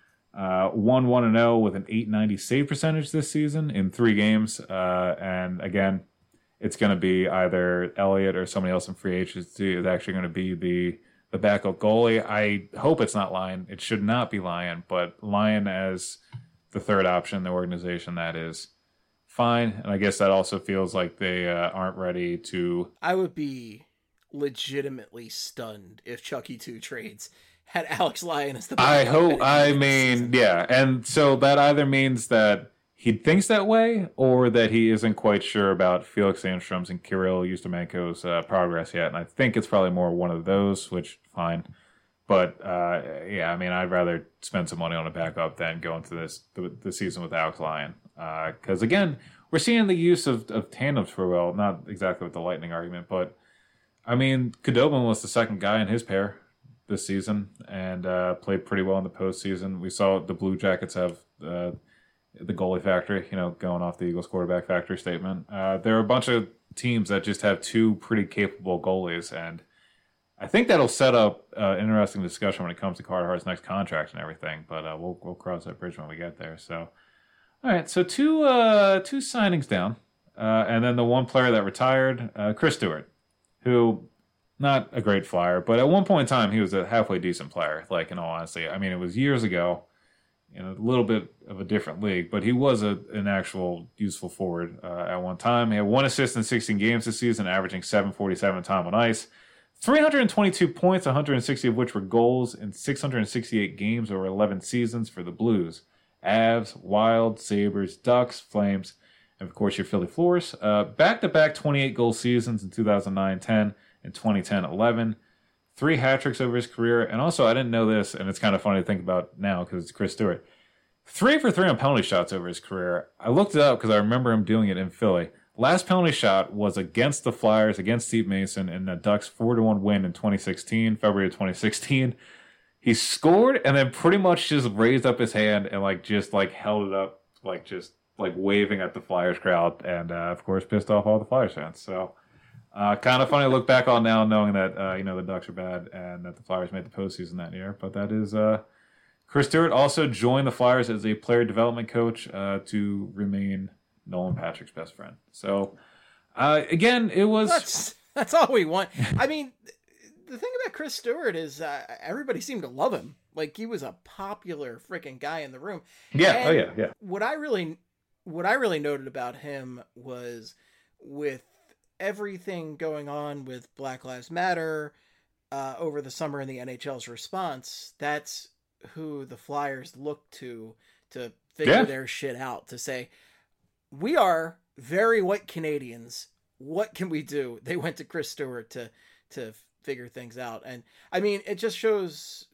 1-1-0 with an .890 save percentage this season in 3 games, and again. It's going to be either Elliott or somebody else in free agency is actually going to be the backup goalie. I hope it's not Lyon. It should not be Lyon, but Lyon as the third option in the organization, that is fine. And I guess that also feels like they aren't ready to... I would be legitimately stunned if Chucky 2 trades had Alex Lyon as the backup. Yeah. And so that either means that he thinks that way, or that he isn't quite sure about Felix Sandstrom's and Kirill Ustimenko's progress yet. And I think it's probably more one of those, which, fine. But, I'd rather spend some money on a backup than go into the season with Alex Lyon. Because, again, we're seeing the use of tandems for well, not exactly with the Lightning argument, but, Khudobin was the second guy in his pair this season and played pretty well in the postseason. We saw the Blue Jackets have... the goalie factory, going off the Eagles quarterback factory statement. There are a bunch of teams that just have two pretty capable goalies, and I think that'll set up an interesting discussion when it comes to Carter Hart's next contract and everything. But we'll cross that bridge when we get there. So, all right, so two signings down, and then the one player that retired, Chris Stewart, who not a great Flyer, but at one point in time he was a halfway decent player. Like, in all honesty, I mean, it was years ago, in a little bit of a different league, but he was an actual useful forward at one time. He had 1 assist in 16 games this season, averaging .747 time on ice. 322 points, 160 of which were goals in 668 games over 11 seasons for the Blues. Avs, Wild, Sabres, Ducks, Flames, and of course your Philly Flyers. Back-to-back 28-goal seasons in 2009-10 and 2010-11. 3 hat-tricks over his career. And also, I didn't know this, and it's kind of funny to think about now because it's Chris Stewart. 3 for 3 on penalty shots over his career. I looked it up because I remember him doing it in Philly. Last penalty shot was against the Flyers, against Steve Mason, in the Ducks' 4-1 win in 2016, February of 2016. He scored and then pretty much just raised up his hand and held it up, waving at the Flyers crowd, and of course pissed off all the Flyers fans. So kind of funny to look back on now, knowing that the Ducks are bad and that the Flyers made the postseason that year. But that is Chris Stewart also joined the Flyers as a player development coach to remain Nolan Patrick's best friend. So again, it was that's all we want. I mean, the thing about Chris Stewart is everybody seemed to love him. Like, he was a popular freaking guy in the room. Yeah. And yeah. What I really noted about him was, with everything going on with Black Lives Matter over the summer and the NHL's response, that's who the Flyers look to figure their shit out, to say, we are very white Canadians. What can we do? They went to Chris Stewart to figure things out. And I mean, it just shows,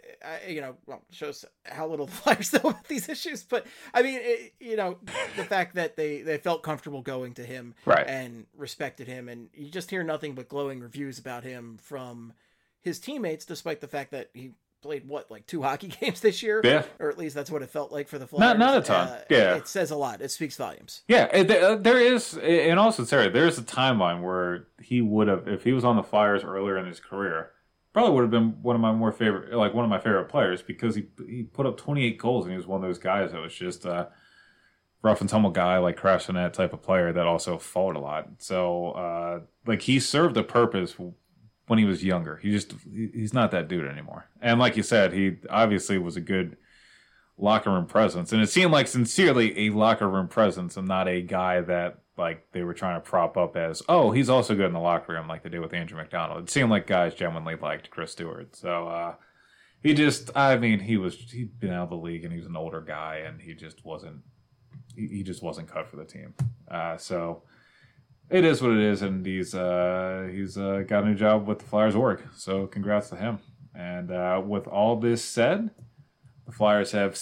shows how little the Flyers know about these issues. But I mean, the fact that they felt comfortable going to him, right, and respected him. And you just hear nothing but glowing reviews about him from his teammates, despite the fact that he played 2 hockey games this year, or at least that's what it felt like for the Flyers. Not a ton. It says a lot. It speaks volumes. Yeah, there is, in all sincerity, there is a timeline where he would have, if he was on the Flyers earlier in his career, probably would have been one of my favorite players, because he put up 28 goals and he was one of those guys that was just a rough and tumble guy, like crash the net type of player that also fought a lot. So he served a purpose when he was younger. He's not that dude anymore. And like you said, he obviously was a good locker room presence, and it seemed like sincerely a locker room presence, and not a guy that they were trying to prop up as, oh, he's also good in the locker room, like they did with Andrew McDonald. It seemed like guys genuinely liked Chris Stewart. So he'd been out of the league and he was an older guy, and he just wasn't cut for the team. So it is what it is, and he's got a new job with the Flyers org, so congrats to him. And with all this said, the Flyers have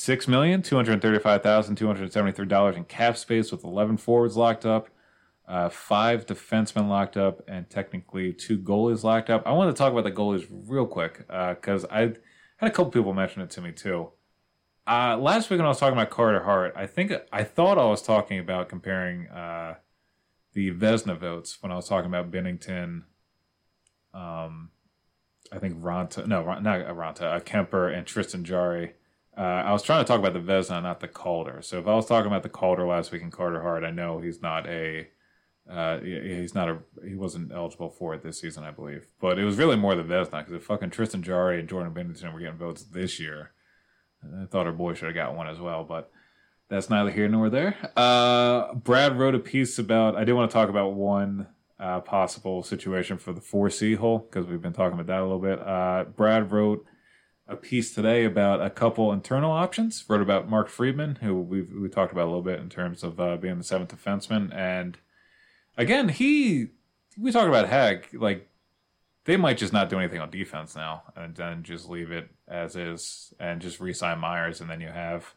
$6,235,273 in cap space, with 11 forwards locked up, 5 defensemen locked up, and technically 2 goalies locked up. I want to talk about the goalies real quick, because I had a couple people mention it to me too. Last week when I was talking about Carter Hart, I thought I was talking about comparing the Vezina votes when I was talking about Binnington, I think Kemper and Tristan Jarry. I was trying to talk about the Vezina, not the Calder. So if I was talking about the Calder last week in Carter Hart, I know he wasn't eligible for it this season, I believe. But it was really more the Vezina, because if fucking Tristan Jarry and Jordan Binnington were getting votes this year, I thought our boy should have got one as well, but that's neither here nor there. Brad wrote a piece about, I did want to talk about one possible situation for the 4C hole, because we've been talking about that a little bit. Brad wrote a piece today about a couple internal options. Wrote about Mark Friedman, who we talked about a little bit in terms of being the 7th defenseman. And again, we talked about Hag, they might just not do anything on defense now, and then just leave it as is and just re-sign Myers, and then you have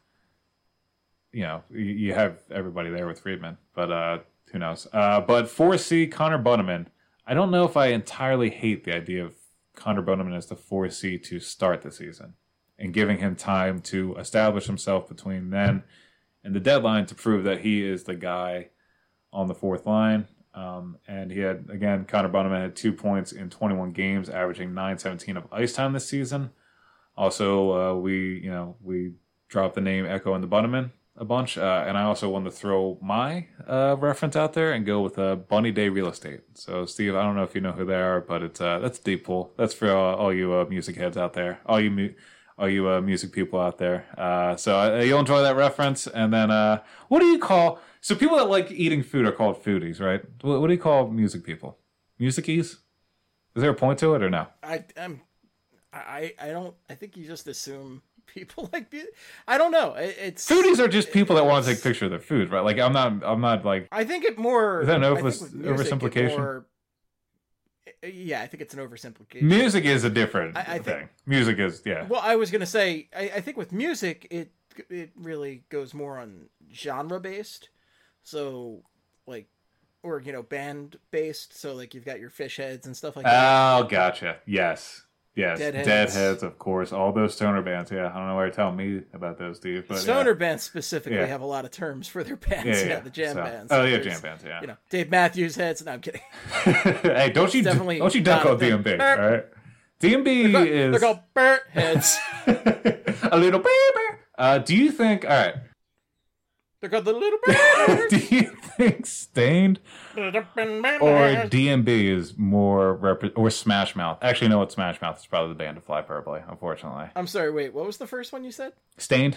everybody there with Friedman, but who knows? But 4C, Connor Bunnaman. I don't know if I entirely hate the idea of Connor Bunnaman as the 4C to start the season, and giving him time to establish himself between then in the deadline to prove that he is the guy on the fourth line. And he had, again, Connor Bunnaman had 2 points in 21 games, averaging 9:17 of ice time this season. Also, we dropped the name Echo and the Bunnaman a bunch, and I also wanted to throw my reference out there and go with Bunny Day Real Estate. So, Steve, I don't know if you know who they are, but that's a deep pull. That's for all you music heads out there, all you music people out there. So you'll enjoy that reference. And then, what do you call? So people that like eating food are called foodies, right? What do you call music people? Musicies? Is there a point to it or no? I don't. I think you just assume people like. I don't know. It's foodies are just people that want to take a picture of their food, right? Like I'm not like. I think it more. Is that an oversimplification? Yeah, I think it's an oversimplification. Music is a different thing. Music is, yeah. Well, I was going to say, I think with music, it really goes more on genre based. So, like, or, band based. So, like, you've got your Fish Heads and stuff like that. Oh, gotcha. Yes. Deadheads, of course. All those stoner bands. Yeah, I don't know why you're telling me about those, Steve. But stoner bands specifically have a lot of terms for their bands. Yeah, the jam bands. Oh, yeah, jam bands. Yeah. Dave Matthews Heads. No, I'm kidding. Hey, don't you duck on DMB? All right. DMB is. They're called Burt Heads. A little baby. Do you think? All right. They're called the Little Birds. Do you think Stained or DMB is more or Smash Mouth? Actually, no, what Smash Mouth is probably the band of Fly Purpley, unfortunately. I'm sorry, wait, what was the first one you said? Stained.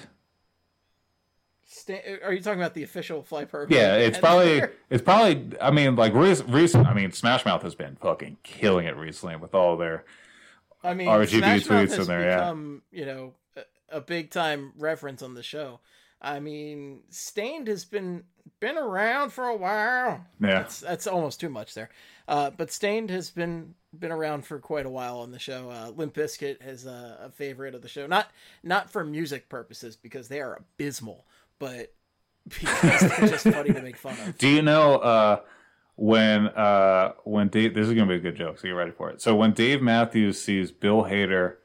Are you talking about the official Fly Purpley? Yeah, it's probably. I mean, like recent. I mean, Smash Mouth has been fucking killing it recently with all their. RGB Smash tweets Mouth has in there. Become, a big time reference on the show. I mean, Stained has been around for a while. Yeah, that's almost too much there. But Stained has been around for quite a while on the show. Limp Bizkit is a favorite of the show, not for music purposes because they are abysmal, but because they're just funny to make fun of. Do you know when Dave? This is gonna be a good joke, so get ready for it. So when Dave Matthews sees Bill Hader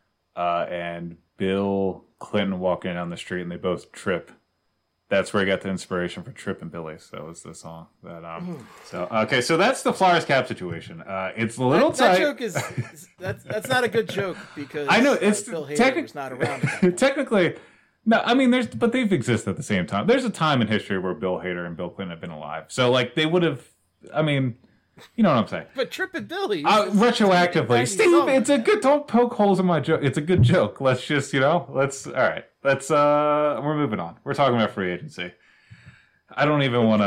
and Bill Clinton walking down the street and they both trip, that's where I got the inspiration for Trippin' Billies. That was the song that so okay, so that's the Flyers cap situation. It's a little tight. That joke is that's not a good joke because I know it's Bill Hader was not around. Technically, no, I mean but they've existed at the same time. There's a time in history where Bill Hader and Bill Clinton have been alive. So like they would have, I mean, you know what I'm saying. But Trippin' Billies retroactively, Steve, it's a good, don't poke holes in my joke. It's a good joke. Let's just, all right. We're moving on. We're talking about free agency. I don't even want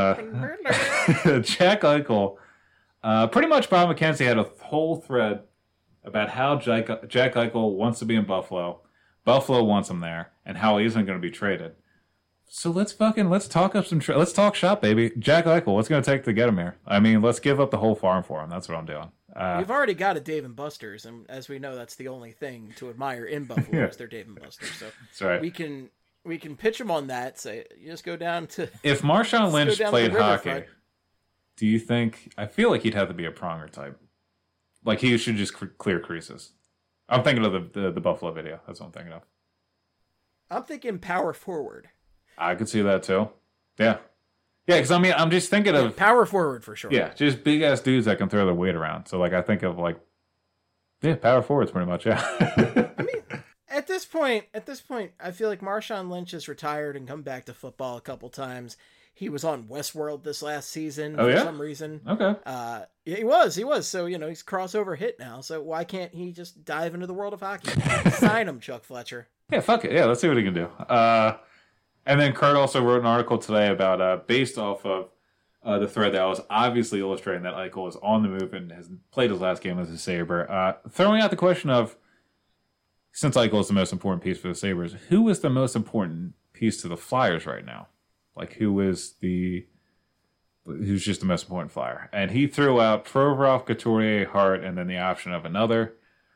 to. Jack Eichel. Pretty much Bob McKenzie had a whole thread about how Jack Eichel wants to be in Buffalo. Buffalo wants him there, and how he isn't going to be traded. So let's talk up let's talk shop, baby. Jack Eichel, what's going to take to get him here? I mean, let's give up the whole farm for him. That's what I'm doing. We've already got a Dave & Buster's, and as we know, that's the only thing to admire in Buffalo is their Dave & Buster's. So that's right. We can pitch them on that. Say you just go down to. If Marshawn Lynch played hockey, do you think? I feel like he'd have to be a Pronger type. Like he should just clear creases. I'm thinking of the Buffalo video. That's what I'm thinking of. I'm thinking power forward. I could see that too. Yeah. Yeah, because I mean, I'm just thinking of power forward for sure. Yeah, just big ass dudes that can throw their weight around. So like, I think of like, power forwards pretty much. Yeah. I mean, at this point, I feel like Marshawn Lynch has retired and come back to football a couple times. He was on Westworld this last season for some reason. Okay. Yeah, he was. So he's crossover hit now. So why can't he just dive into the world of hockey? Sign him, Chuck Fletcher. Yeah, fuck it. Yeah, let's see what he can do. And then Kurt also wrote an article today about, based off of the thread that was obviously illustrating that Eichel is on the move and has played his last game as a Sabre, throwing out the question of, since Eichel is the most important piece for the Sabres, who is the most important piece to the Flyers right now? Like, who's just the most important Flyer? And he threw out Provorov, Couturier, Hart, and then the option of another.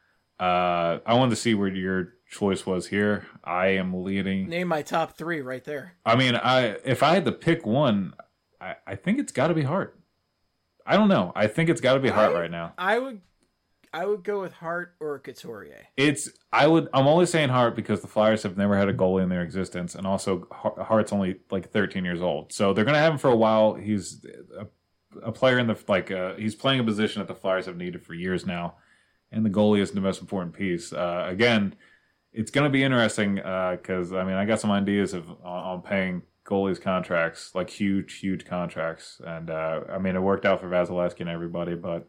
I wanted to see where your choice was here. I am leading. Name my top three right there. I mean, if I had to pick one, I think it's got to be Hart. I don't know. I think it's got to be Hart right now. I I would go with Hart or Couturier. I'm only saying Hart because the Flyers have never had a goalie in their existence, and also Hart's only like 13 years old, so they're gonna have him for a while. He's a player in the he's playing a position that the Flyers have needed for years now, and the goalie is the most important piece. Again, it's gonna be interesting because I got some ideas on paying goalies contracts, like huge contracts, and it worked out for Vasilevsky and everybody, but.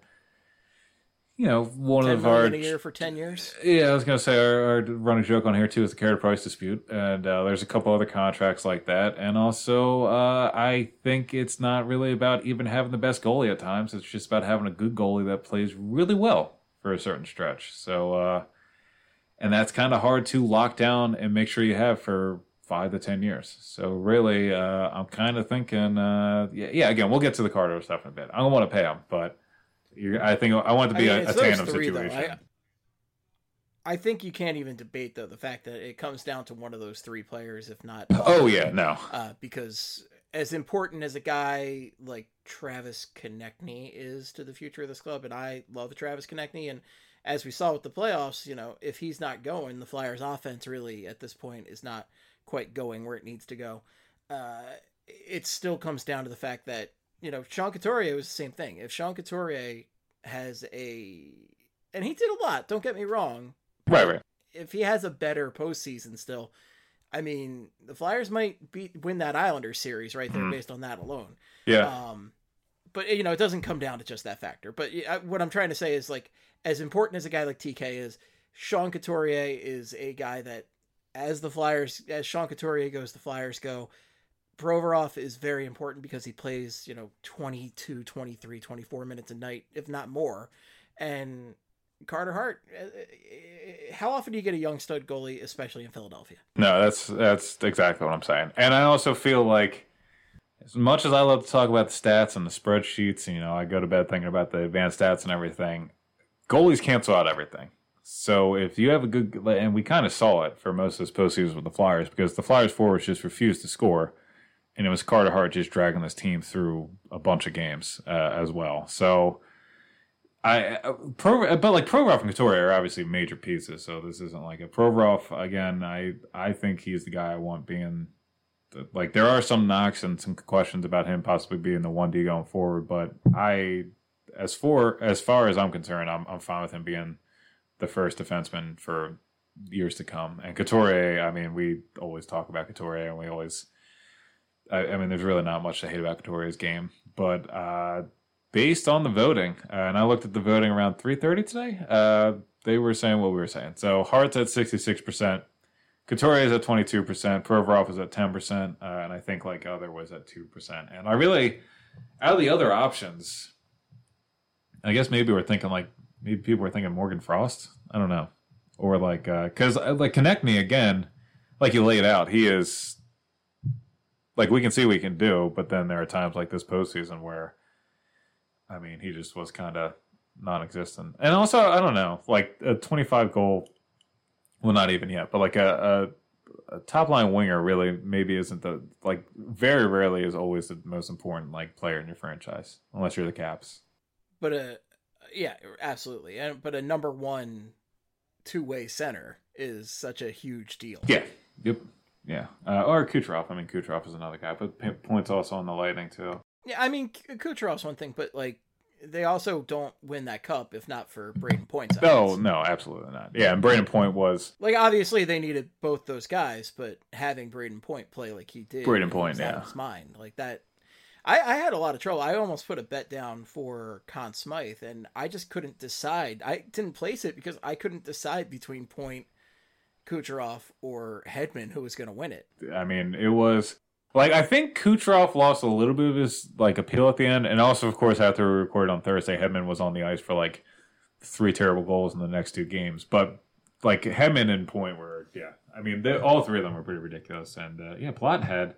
One of our... $10 million a year for 10 years? Yeah, I was going to say, our running joke on here, too, is the carrier price dispute. And there's a couple other contracts like that. And also, I think it's not really about even having the best goalie at times. It's just about having a good goalie that plays really well for a certain stretch. So, and that's kind of hard to lock down and make sure you have for 5 to 10 years. So, really, I'm kind of thinking, again, we'll get to the Carter stuff in a bit. I don't want to pay him, but... I think I want it to be a tandem situation. I think you can't even debate, though, the fact that it comes down to one of those three players, if not... Oh, yeah, no. Because as important as a guy like Travis Konechny is to the future of this club, and I love Travis Konechny, and as we saw with the playoffs, if he's not going, the Flyers' offense really, at this point, is not quite going where it needs to go. It still comes down to the fact that Sean Couturier was the same thing. If Sean Couturier has and he did a lot, don't get me wrong. Right. If he has a better postseason still, the Flyers might win that Islanders series right there based on that alone. Yeah. But, it doesn't come down to just that factor. But what I'm trying to say is, like, as important as a guy like TK is, Sean Couturier is a guy that, as Sean Couturier goes, the Flyers go. Provorov is very important because he plays, 22, 23, 24 minutes a night, if not more. And Carter Hart, how often do you get a young stud goalie, especially in Philadelphia? No, that's exactly what I'm saying. And I also feel like, as much as I love to talk about the stats and the spreadsheets, and, I go to bed thinking about the advanced stats and everything, goalies cancel out everything. So if you have a good, and we kind of saw it for most of this postseason with the Flyers, because the Flyers forwards just refused to score. And it was Carter Hart just dragging this team through a bunch of games as well. So, Provorov and Couturier are obviously major pieces. So this isn't like a Provorov. Again, I think he's the guy I want being. There are some knocks and some questions about him possibly being the 1D going forward. But as far as I'm concerned, I'm fine with him being the first defenseman for years to come. And Couturier, we always talk about Couturier, and we always. There's really not much to hate about Couturier's game, but based on the voting, and I looked at the voting around 3:30 today, they were saying what we were saying. So Hart's at 66%, Couturier is at 22%, Provorov is at 10%, and I think other was at 2%. And I really, out of the other options, I guess maybe we're thinking maybe people were thinking Morgan Frost. I don't know, or because Konechny again, like you laid out, he is. We can see what he can do, but then there are times like this postseason where, he just was kind of non-existent. And also, I don't know, a 25-goal, well, not even yet, but a top-line winger really maybe isn't very rarely is always the most important, player in your franchise, unless you're the Caps. But, yeah, absolutely. But a number one two-way center is such a huge deal. Yeah, yep. Yeah, or Kucherov. Kucherov is another guy, but points also on the Lightning too. Yeah, Kucherov's one thing, but they also don't win that cup if not for Braden Point's efforts. No, absolutely not. Yeah, and Braden Point was obviously they needed both those guys, but having Braden Point play like he did, Braden Point, out of his mind that. I had a lot of trouble. I almost put a bet down for Conn Smythe, and I just couldn't decide. I didn't place it because I couldn't decide between Point, Kucherov, or Hedman who was going to win it. It was I think Kucherov lost a little bit of his appeal at the end, and also of course after we recorded on Thursday, Hedman was on the ice for 3 terrible goals in the next 2 games. But Hedman and Point were all 3 of them were pretty ridiculous. And Palat had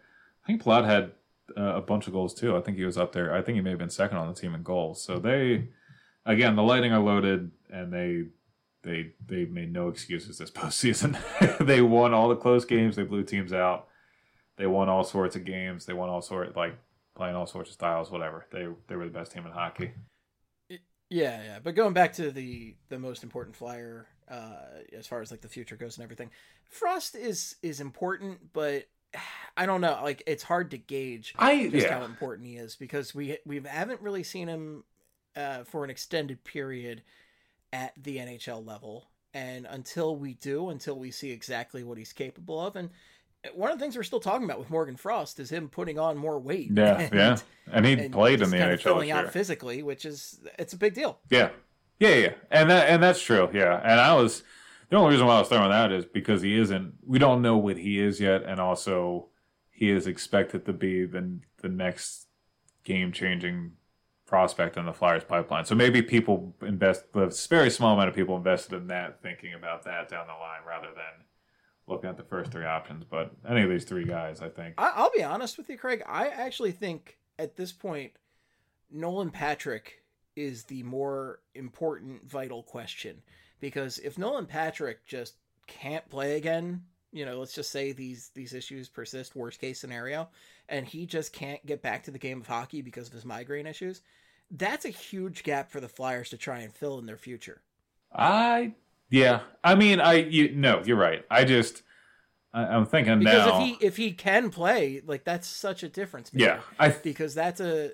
a bunch of goals too. I think he was up there. I think he may have been second on the team in goals. So the Lightning are loaded, and they made no excuses this postseason. They won all the close games. They blew teams out. They won all sorts of games. They won all sorts playing all sorts of styles. Whatever. They were the best team in hockey. Yeah. But going back to the most important Flyer, as far as like the future goes and everything, Frost is important, but I don't know. Like, it's hard to gauge how important he is, because we haven't really seen him for an extended period at the NHL level. And until we see exactly what he's capable of. And one of the things we're still talking about with Morgan Frost is him putting on more weight. Yeah. And he played in the NHL filling out physically, it's a big deal. Yeah. And that's true. Yeah. And the only reason why I was throwing that is because we don't know what he is yet. And also he is expected to be the next game-changing prospect in the Flyers pipeline. So maybe people a very small amount of people invested in that, thinking about that down the line rather than looking at the first three options. But any of these three guys, I think. I'll be honest with you, Craig. I actually think at this point, Nolan Patrick is the more important, vital question. Because if Nolan Patrick just can't play again, let's just say these issues persist, worst case scenario, and he just can't get back to the game of hockey because of his migraine issues, that's a huge gap for the Flyers to try and fill in their future. Yeah. I mean, you're right. I'm thinking because now. Because if he can play, like, that's such a difference maker. Yeah. Because that's a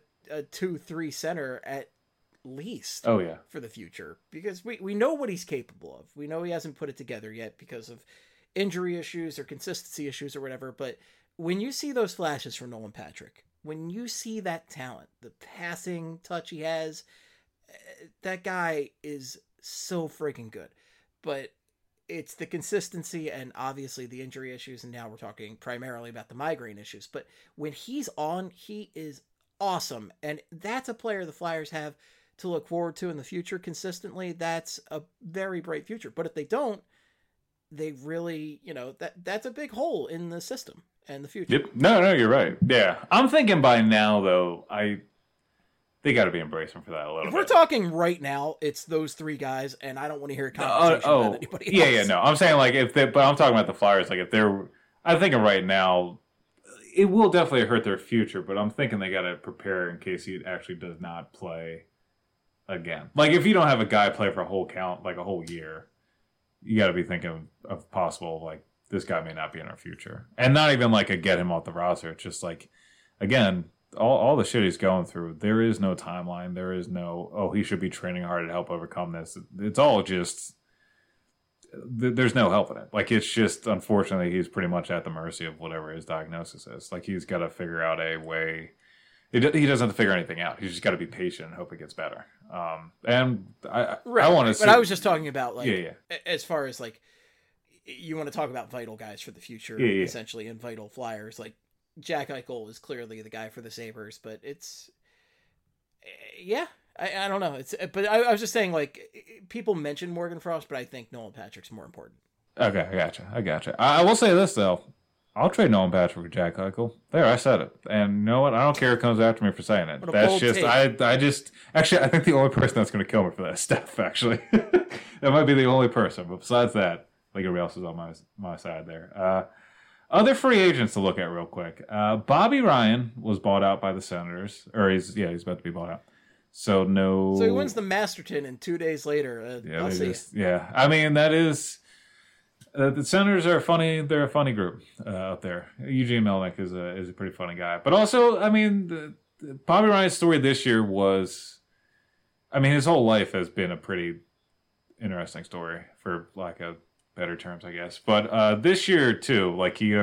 2-3 center at least. Oh, yeah. For the future. Because we know what he's capable of. We know he hasn't put it together yet because of injury issues or consistency issues or whatever. But when you see those flashes from Nolan Patrick, when you see that talent, the passing touch he has, that guy is so freaking good. But it's the consistency and obviously the injury issues, and now we're talking primarily about the migraine issues. But when he's on, he is awesome. And that's a player the Flyers have to look forward to in the future consistently. That's a very bright future. But if they don't, they really, that's a big hole in the system and the future. Yep. No, you're right. Yeah. I'm thinking by now, though, they got to be embracing for that a little bit. If we're talking right now, it's those three guys, and I don't want to hear a conversation about anybody else. Yeah, no. I'm saying, like, but I'm talking about the Flyers. Like, I'm thinking right now, it will definitely hurt their future, but I'm thinking they got to prepare in case he actually does not play again. Like, if you don't have a guy play for a whole year, you got to be thinking of possible, like, this guy may not be in our future. And not even like a get him off the roster. It's just like, again, all the shit he's going through, there is no timeline. There is no, he should be training hard to help overcome this. It's all just, there's no help in it. Like, it's just, unfortunately, he's pretty much at the mercy of whatever his diagnosis is. Like, he's got to figure out a way. He doesn't have to figure anything out. He's just got to be patient and hope it gets better. And I want to see. But I was just talking about, like, as far as, like, you want to talk about vital guys for the future, essentially, and vital Flyers. Like, Jack Eichel is clearly the guy for the Sabres, but it's, I don't know. But I was just saying, like, people mention Morgan Frost, but I think Nolan Patrick's more important. Okay, I gotcha. I will say this, though. I'll trade Nolan Patrick for Jack Eichel. There, I said it. And you know what? I don't care who comes after me for saying it. That's just, actually, I think the only person that's going to kill me for that stuff, actually. That might be the only person. But besides that, like, everybody else is on my side there. Other free agents to look at real quick. Bobby Ryan was bought out by the Senators. Or he's about to be bought out. So he wins the Masterton, and 2 days later, I mean, that is... the Senators are funny. They're a funny group out there. Eugene Melnyk is a pretty funny guy. But also, I mean, Bobby Ryan's story this year was... I mean, his whole life has been a pretty interesting story, for lack of better terms, I guess. But this year, too, like, he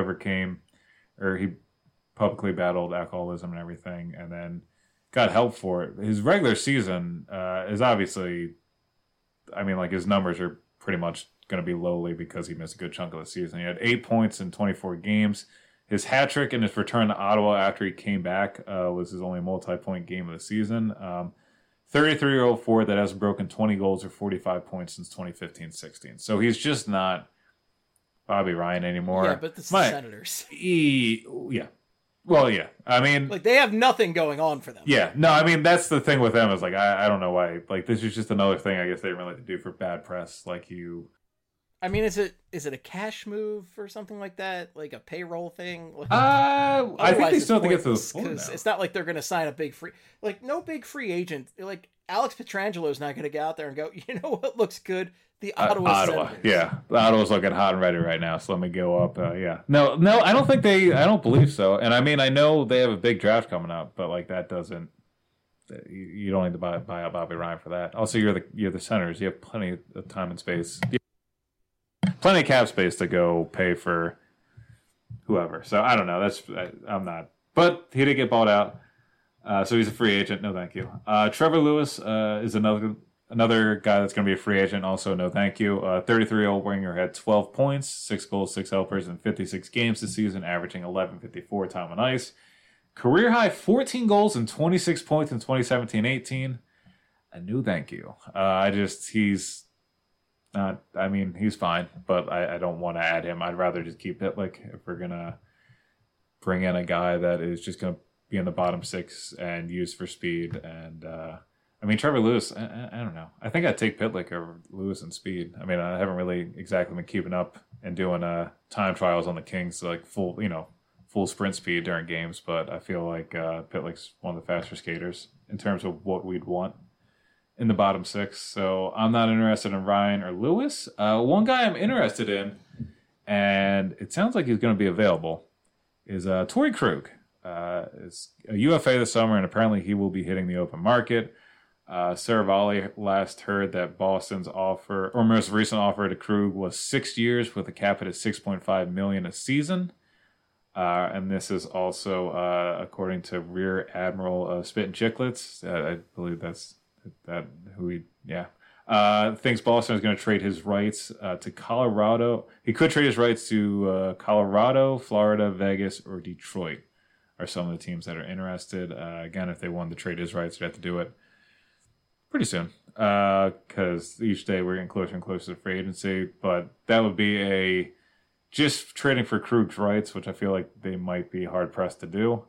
publicly battled alcoholism and everything, and then got help for it. His regular season is obviously... I mean, like, his numbers are pretty much going to be lowly because he missed a good chunk of the season. He had 8 points in 24 games. His hat trick in his return to Ottawa after he came back was his only multi-point game of the season. 33-year-old forward that hasn't broken 20 goals or 45 points since 2015-16. So he's just not Bobby Ryan anymore. Yeah, but the Senators. Yeah. Well, yeah. I mean... like, they have nothing going on for them. Yeah. No, I mean, that's the thing with them is, like, I don't know why. Like, this is just another thing I guess they really like to do for bad press. Like, I mean, is it a cash move or something like that? Like a payroll thing? I think they still have to get to the point now. It's not like they're going to sign a big free... Like, no big free agent... Like, Alex Pietrangelo is not going to get out there and go, you know what looks good? The Ottawa Senators. Yeah. Ottawa's looking hot and ready right now, so let me go up. Yeah. No, I don't believe so. And I mean, I know they have a big draft coming up, but like that doesn't, you don't need to buy out Bobby Ryan for that. Also, you're the Senators. You have plenty of time and space. Plenty of cap space to go pay for whoever. So I don't know. I'm not. But he did get bought out. So he's a free agent. No, thank you. Trevor Lewis is another guy that's going to be a free agent. Also, no, thank you. 33-year-old winger had 12 points, 6 goals, 6 helpers in 56 games this season, averaging 11.54 time on ice. Career high 14 goals and 26 points in 2017-18. A new thank you. He's not. I mean, he's fine, but I don't want to add him. I'd rather just keep Pitlick if we're gonna bring in a guy that is just gonna be in the bottom 6 and used for speed. And I mean, Trevor Lewis, I don't know. I think I'd take Pitlick over Lewis and speed. I mean, I haven't really exactly been keeping up and doing time trials on the Kings, like full sprint speed during games. But I feel like Pitlick's one of the faster skaters in terms of what we'd want in the bottom 6. So I'm not interested in Ryan or Lewis. One guy I'm interested in, and it sounds like he's going to be available, is Torrey Krug. Is a UFA this summer, and apparently he will be hitting the open market. Saravalli last heard that Boston's offer, or most recent offer to Krug, was 6 years with a cap hit at $6.5 million a season. And this is also according to Rear Admiral Spit and Chicklets. I believe that's who he. Yeah. Thinks Boston is going to trade his rights to Colorado. He could trade his rights to Colorado, Florida, Vegas, or Detroit are some of the teams that are interested. Again, if they wanted to trade his rights, they'd have to do it pretty soon because each day we're getting closer and closer to free agency. But that would be just trading for Krug's rights, which I feel like they might be hard-pressed to do.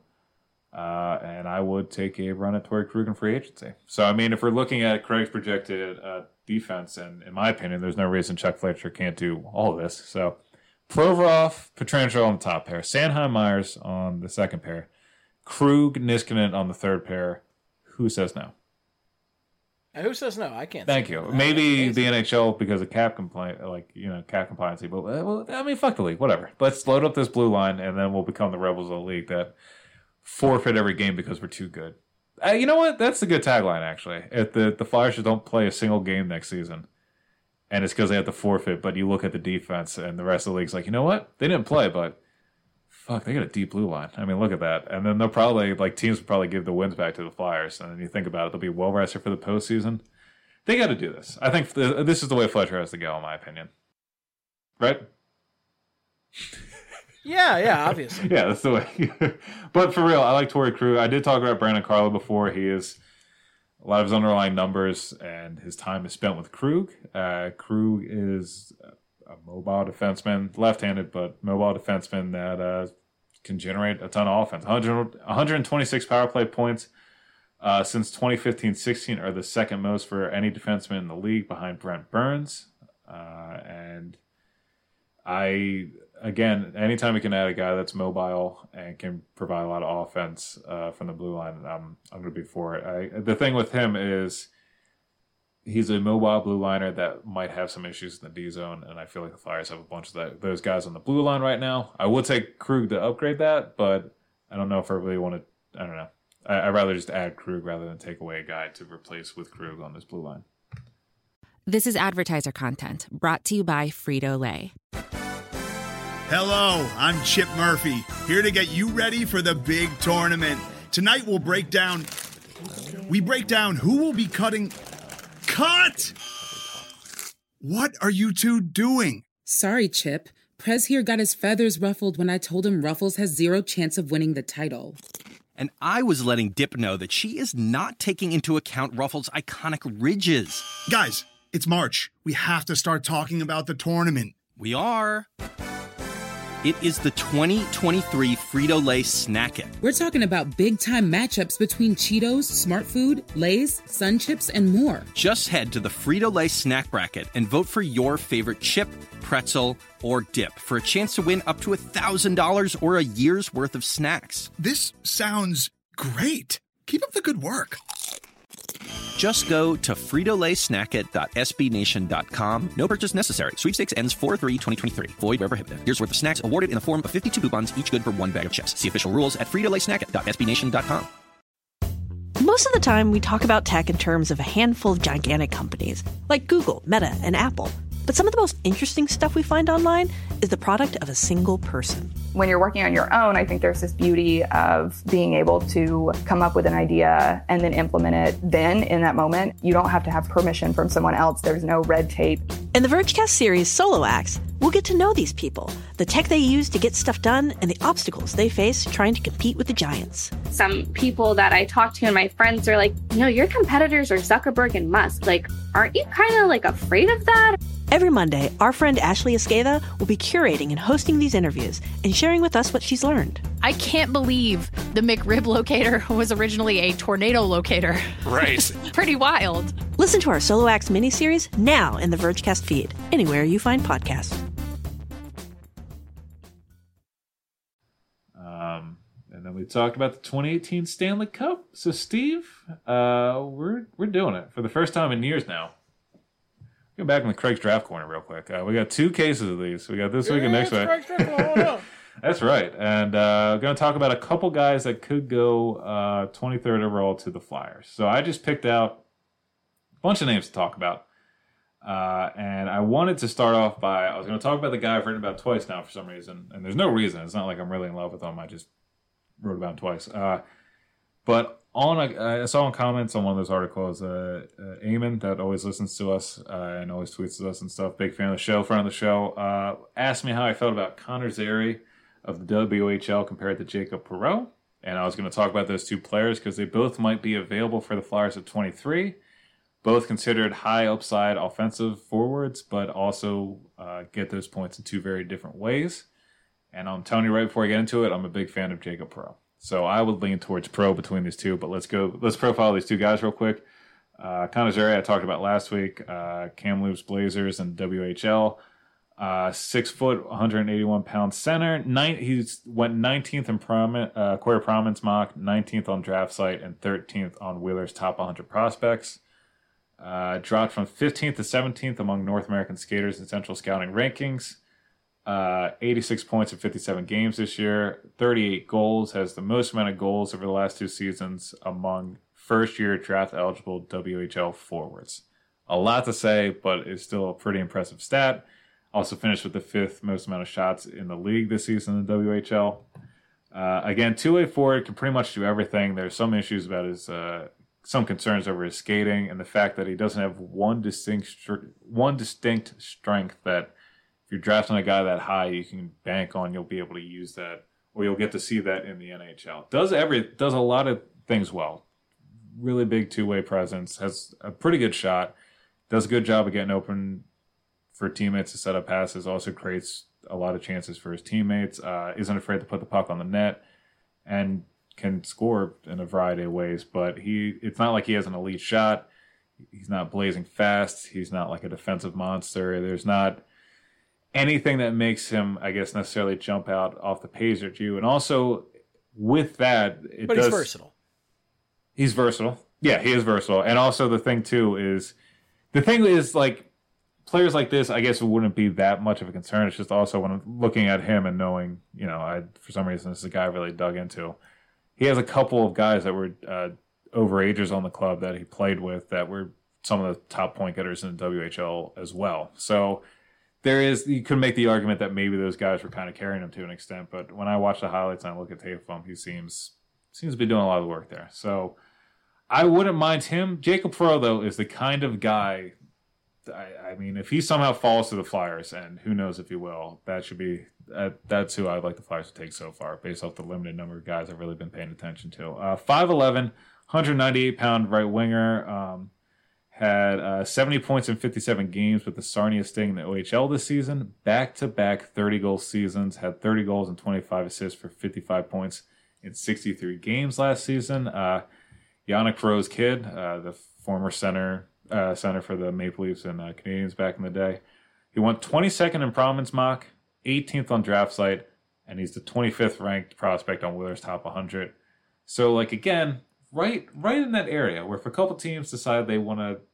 And I would take a run at Torrey Krug in free agency. So, I mean, if we're looking at Craig's projected defense, and in my opinion, there's no reason Chuck Fletcher can't do all of this. So, Provorov, Pietrangelo on the top pair, Sanheim, Myers on the second pair, Krug, Niskanen on the third pair. Who says no? Who says no? I can't. Thank you. No. Maybe the NHL because of cap compliance, cap compliancy. But well, I mean, fuck the league. Whatever. Let's load up this blue line, and then we'll become the rebels of the league that forfeit every game because we're too good. You know what? That's a good tagline, actually. If the Flyers just don't play a single game next season, and it's because they have to forfeit, but you look at the defense, and the rest of the league's like, you know what? They didn't play, but fuck, they got a deep blue line. I mean, look at that. And then they'll probably, teams will probably give the wins back to the Flyers. And then you think about it, they'll be well-rested for the postseason. They got to do this. I think this is the way Fletcher has to go, in my opinion. Right? Yeah, obviously. Yeah, that's the way. But for real, I like Torrey Krug. I did talk about Brandon Carlo before. He is a lot of his underlying numbers, and his time is spent with Krug. Krug is a mobile defenseman, left-handed, but mobile defenseman that can generate a ton of offense. 126 power play points since 2015-16 are the second most for any defenseman in the league behind Brent Burns. And again, anytime we can add a guy that's mobile and can provide a lot of offense from the blue line, I'm going to be for it. The thing with him is he's a mobile blue liner that might have some issues in the D zone, and I feel like the Flyers have a bunch of those guys on the blue line right now. I would take Krug to upgrade that, but I don't know if I really want to. I don't know. I'd rather just add Krug rather than take away a guy to replace with Krug on this blue line. This is advertiser content brought to you by Frito-Lay. Hello, I'm Chip Murphy, here to get you ready for the big tournament. Tonight we'll break down who will be cutting... Cut! What are you two doing? Sorry, Chip. Prez here got his feathers ruffled when I told him Ruffles has zero chance of winning the title. And I was letting Dip know that she is not taking into account Ruffles' iconic ridges. Guys, it's March. We have to start talking about the tournament. We are. It is the 2023 Frito-Lay Snack It. We're talking about big-time matchups between Cheetos, Smart Food, Lay's, Sun Chips, and more. Just head to the Frito-Lay Snack Bracket and vote for your favorite chip, pretzel, or dip for a chance to win up to $1,000 or a year's worth of snacks. This sounds great. Keep up the good work. Just go to fritolaysnacket.sbnation.com. No purchase necessary. Sweepstakes ends 4/3/2023. Void where prohibited. Here's worth of snacks awarded in the form of 52 coupons, each good for one bag of chips. See official rules at fritolaysnacket.sbnation.com. Most of the time, we talk about tech in terms of a handful of gigantic companies, like Google, Meta, and Apple. But some of the most interesting stuff we find online is the product of a single person. When you're working on your own, I think there's this beauty of being able to come up with an idea and then implement it then in that moment. You don't have to have permission from someone else. There's no red tape. In the Vergecast series Solo Acts, we'll get to know these people, the tech they use to get stuff done, and the obstacles they face trying to compete with the giants. Some people that I talk to and my friends are like, your competitors are Zuckerberg and Musk. Like, aren't you kind of like afraid of that? Every Monday, our friend Ashley Esqueda will be curating and hosting these interviews and sharing with us what she's learned. I can't believe the McRib locator was originally a tornado locator. Right. Pretty wild. Listen to our Solo Acts miniseries now in the Vergecast feed, anywhere you find podcasts. And then we talked about the 2018 Stanley Cup. So, Steve, we're doing it for the first time in years now. Go back in the Craig's Draft Corner real quick. We got 2 cases of these. We got this week and next week. That's right. And we're going to talk about a couple guys that could go 23rd overall to the Flyers. So I just picked out a bunch of names to talk about. And I wanted to start off by, I was going to talk about the guy I've written about twice now for some reason. And there's no reason. It's not like I'm really in love with him. I just wrote about him twice. But I saw in comments on one of those articles, Eamon, that always listens to us and always tweets at us and stuff, big fan of the show, friend of the show, asked me how I felt about Connor Zary of the WHL compared to Jacob Perreault. And I was going to talk about those 2 players because they both might be available for the Flyers at 23. Both considered high upside offensive forwards, but also get those points in 2 very different ways. And I'm telling you right before I get into it, I'm a big fan of Jacob Perreault. So I would lean towards pro between these 2, but let's profile these 2 guys real quick. Connor Zary, I talked about last week. Kamloops Blazers and WHL. 6 foot, 181 pound center. He's went 19th in Quarter Prominence mock, 19th on draft site, and 13th on Wheeler's top 100 prospects. Dropped from 15th to 17th among North American skaters in Central Scouting rankings. 86 points in 57 games this year, 38 goals, has the most amount of goals over the last 2 seasons among first-year draft-eligible WHL forwards. A lot to say, but it's still a pretty impressive stat. Also finished with the 5th most amount of shots in the league this season in the WHL. Again, 2-way forward, can pretty much do everything. There's some issues about his, some concerns over his skating and the fact that he doesn't have one distinct strength that if you're drafting a guy that high, you can bank on you'll be able to use that, or you'll get to see that in the NHL. Does a lot of things well. Really big 2-way presence, has a pretty good shot, does a good job of getting open for teammates to set up passes, also creates a lot of chances for his teammates, isn't afraid to put the puck on the net, and can score in a variety of ways. But it's not like he has an elite shot. He's not blazing fast. He's not like a defensive monster. There's not anything that makes him, I guess, necessarily jump out off the page at you. And also, with that, he's versatile. He's versatile. Yeah, he is versatile. And also, the thing is, like, players like this, I guess it wouldn't be that much of a concern. It's just also when I'm looking at him and knowing, for some reason, this is a guy I really dug into. He has a couple of guys that were overagers on the club that he played with that were some of the top point getters in the WHL as well. So you could make the argument that maybe those guys were kind of carrying him to an extent, but when I watch the highlights and I look at tape of him, he seems to be doing a lot of the work there. So I wouldn't mind him. Jacob Perreault, though, is the kind of guy, I mean, if he somehow falls to the Flyers, and who knows if he will, that's who I'd like the Flyers to take so far, based off the limited number of guys I've really been paying attention to. 5'11", 198-pound right winger, had 70 points in 57 games with the Sarnia Sting in the OHL this season. Back-to-back 30-goal seasons, had 30 goals and 25 assists for 55 points in 63 games last season. Yannick Perreault's kid, the former center for the Maple Leafs and Canadiens back in the day. He went 22nd in Prominence mock, 18th on draft site, and he's the 25th ranked prospect on Wheeler's top 100. So, again, right in that area where if a couple teams decide they want to,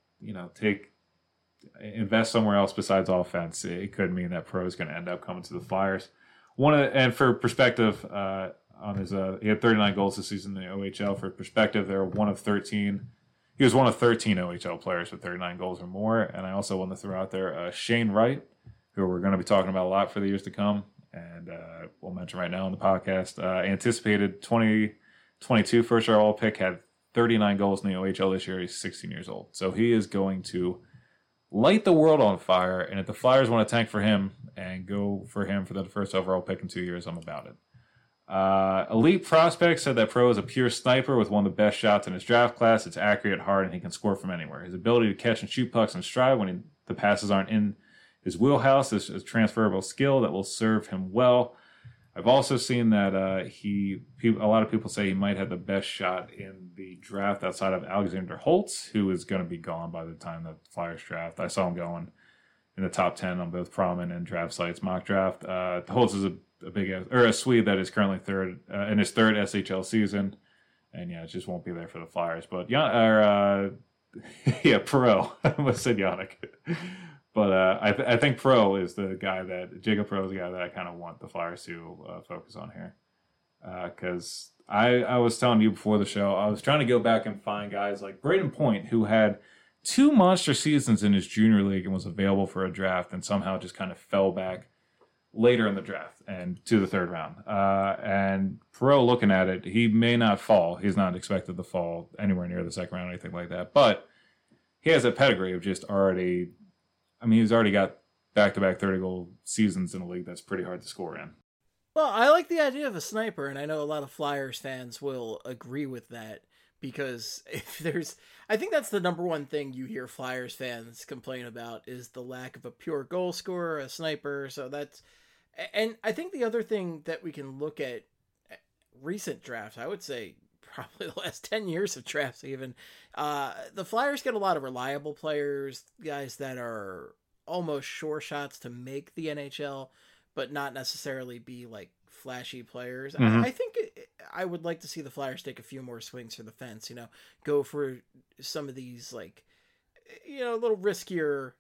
invest somewhere else besides offense, it could mean that Pro is going to end up coming to the Flyers. And for perspective, on his he had 39 goals this season in the OHL. For perspective, they're one of 13. He was one of 13 OHL players with 39 goals or more. And I also want to throw out there Shane Wright, who we're going to be talking about a lot for the years to come, and we'll mention right now on the podcast. Anticipated 2022 first-overall pick, had 39 goals in the OHL this year. He's 16 years old. So he is going to light the world on fire, and if the Flyers want to tank for him and go for him for the first overall pick in 2 years, I'm about it. Elite Prospects said that Pro is a pure sniper with one of the best shots in his draft class. It's accurate, hard, and he can score from anywhere. His ability to catch and shoot pucks in stride when the passes aren't in his wheelhouse is a transferable skill that will serve him well. I've also seen that a lot of people say he might have the best shot in the draft outside of Alexander Holtz, who is going to be gone by the time the Flyers draft. I saw him going in the top 10 on both Promin and Draft Site's mock draft. Holtz is a Swede that is currently third in his third SHL season, and it just won't be there for the Flyers. But Pro. I almost said Yannick. But I think Pro is the guy Jacob Pro is the guy that I kind of want the Flyers to focus on here. Because I was telling you before the show, I was trying to go back and find guys like Braden Point, who had 2 monster seasons in his junior league and was available for a draft and somehow just kind of fell back later in the draft and to the third round. And Pro, looking at it, he may not fall. He's not expected to fall anywhere near the second round or anything like that. But he has a pedigree of just already... he's already got back-to-back 30-goal seasons in a league that's pretty hard to score in. Well, I like the idea of a sniper, and I know a lot of Flyers fans will agree with that, because I think that's the number one thing you hear Flyers fans complain about is the lack of a pure goal scorer, a sniper. And I think the other thing that we can look at recent drafts, I would say probably the last 10 years of drafts even, the Flyers get a lot of reliable players, guys that are almost sure shots to make the NHL, but not necessarily be like flashy players. Mm-hmm. I think I would like to see the Flyers take a few more swings for the fence, go for some of these like, a little riskier,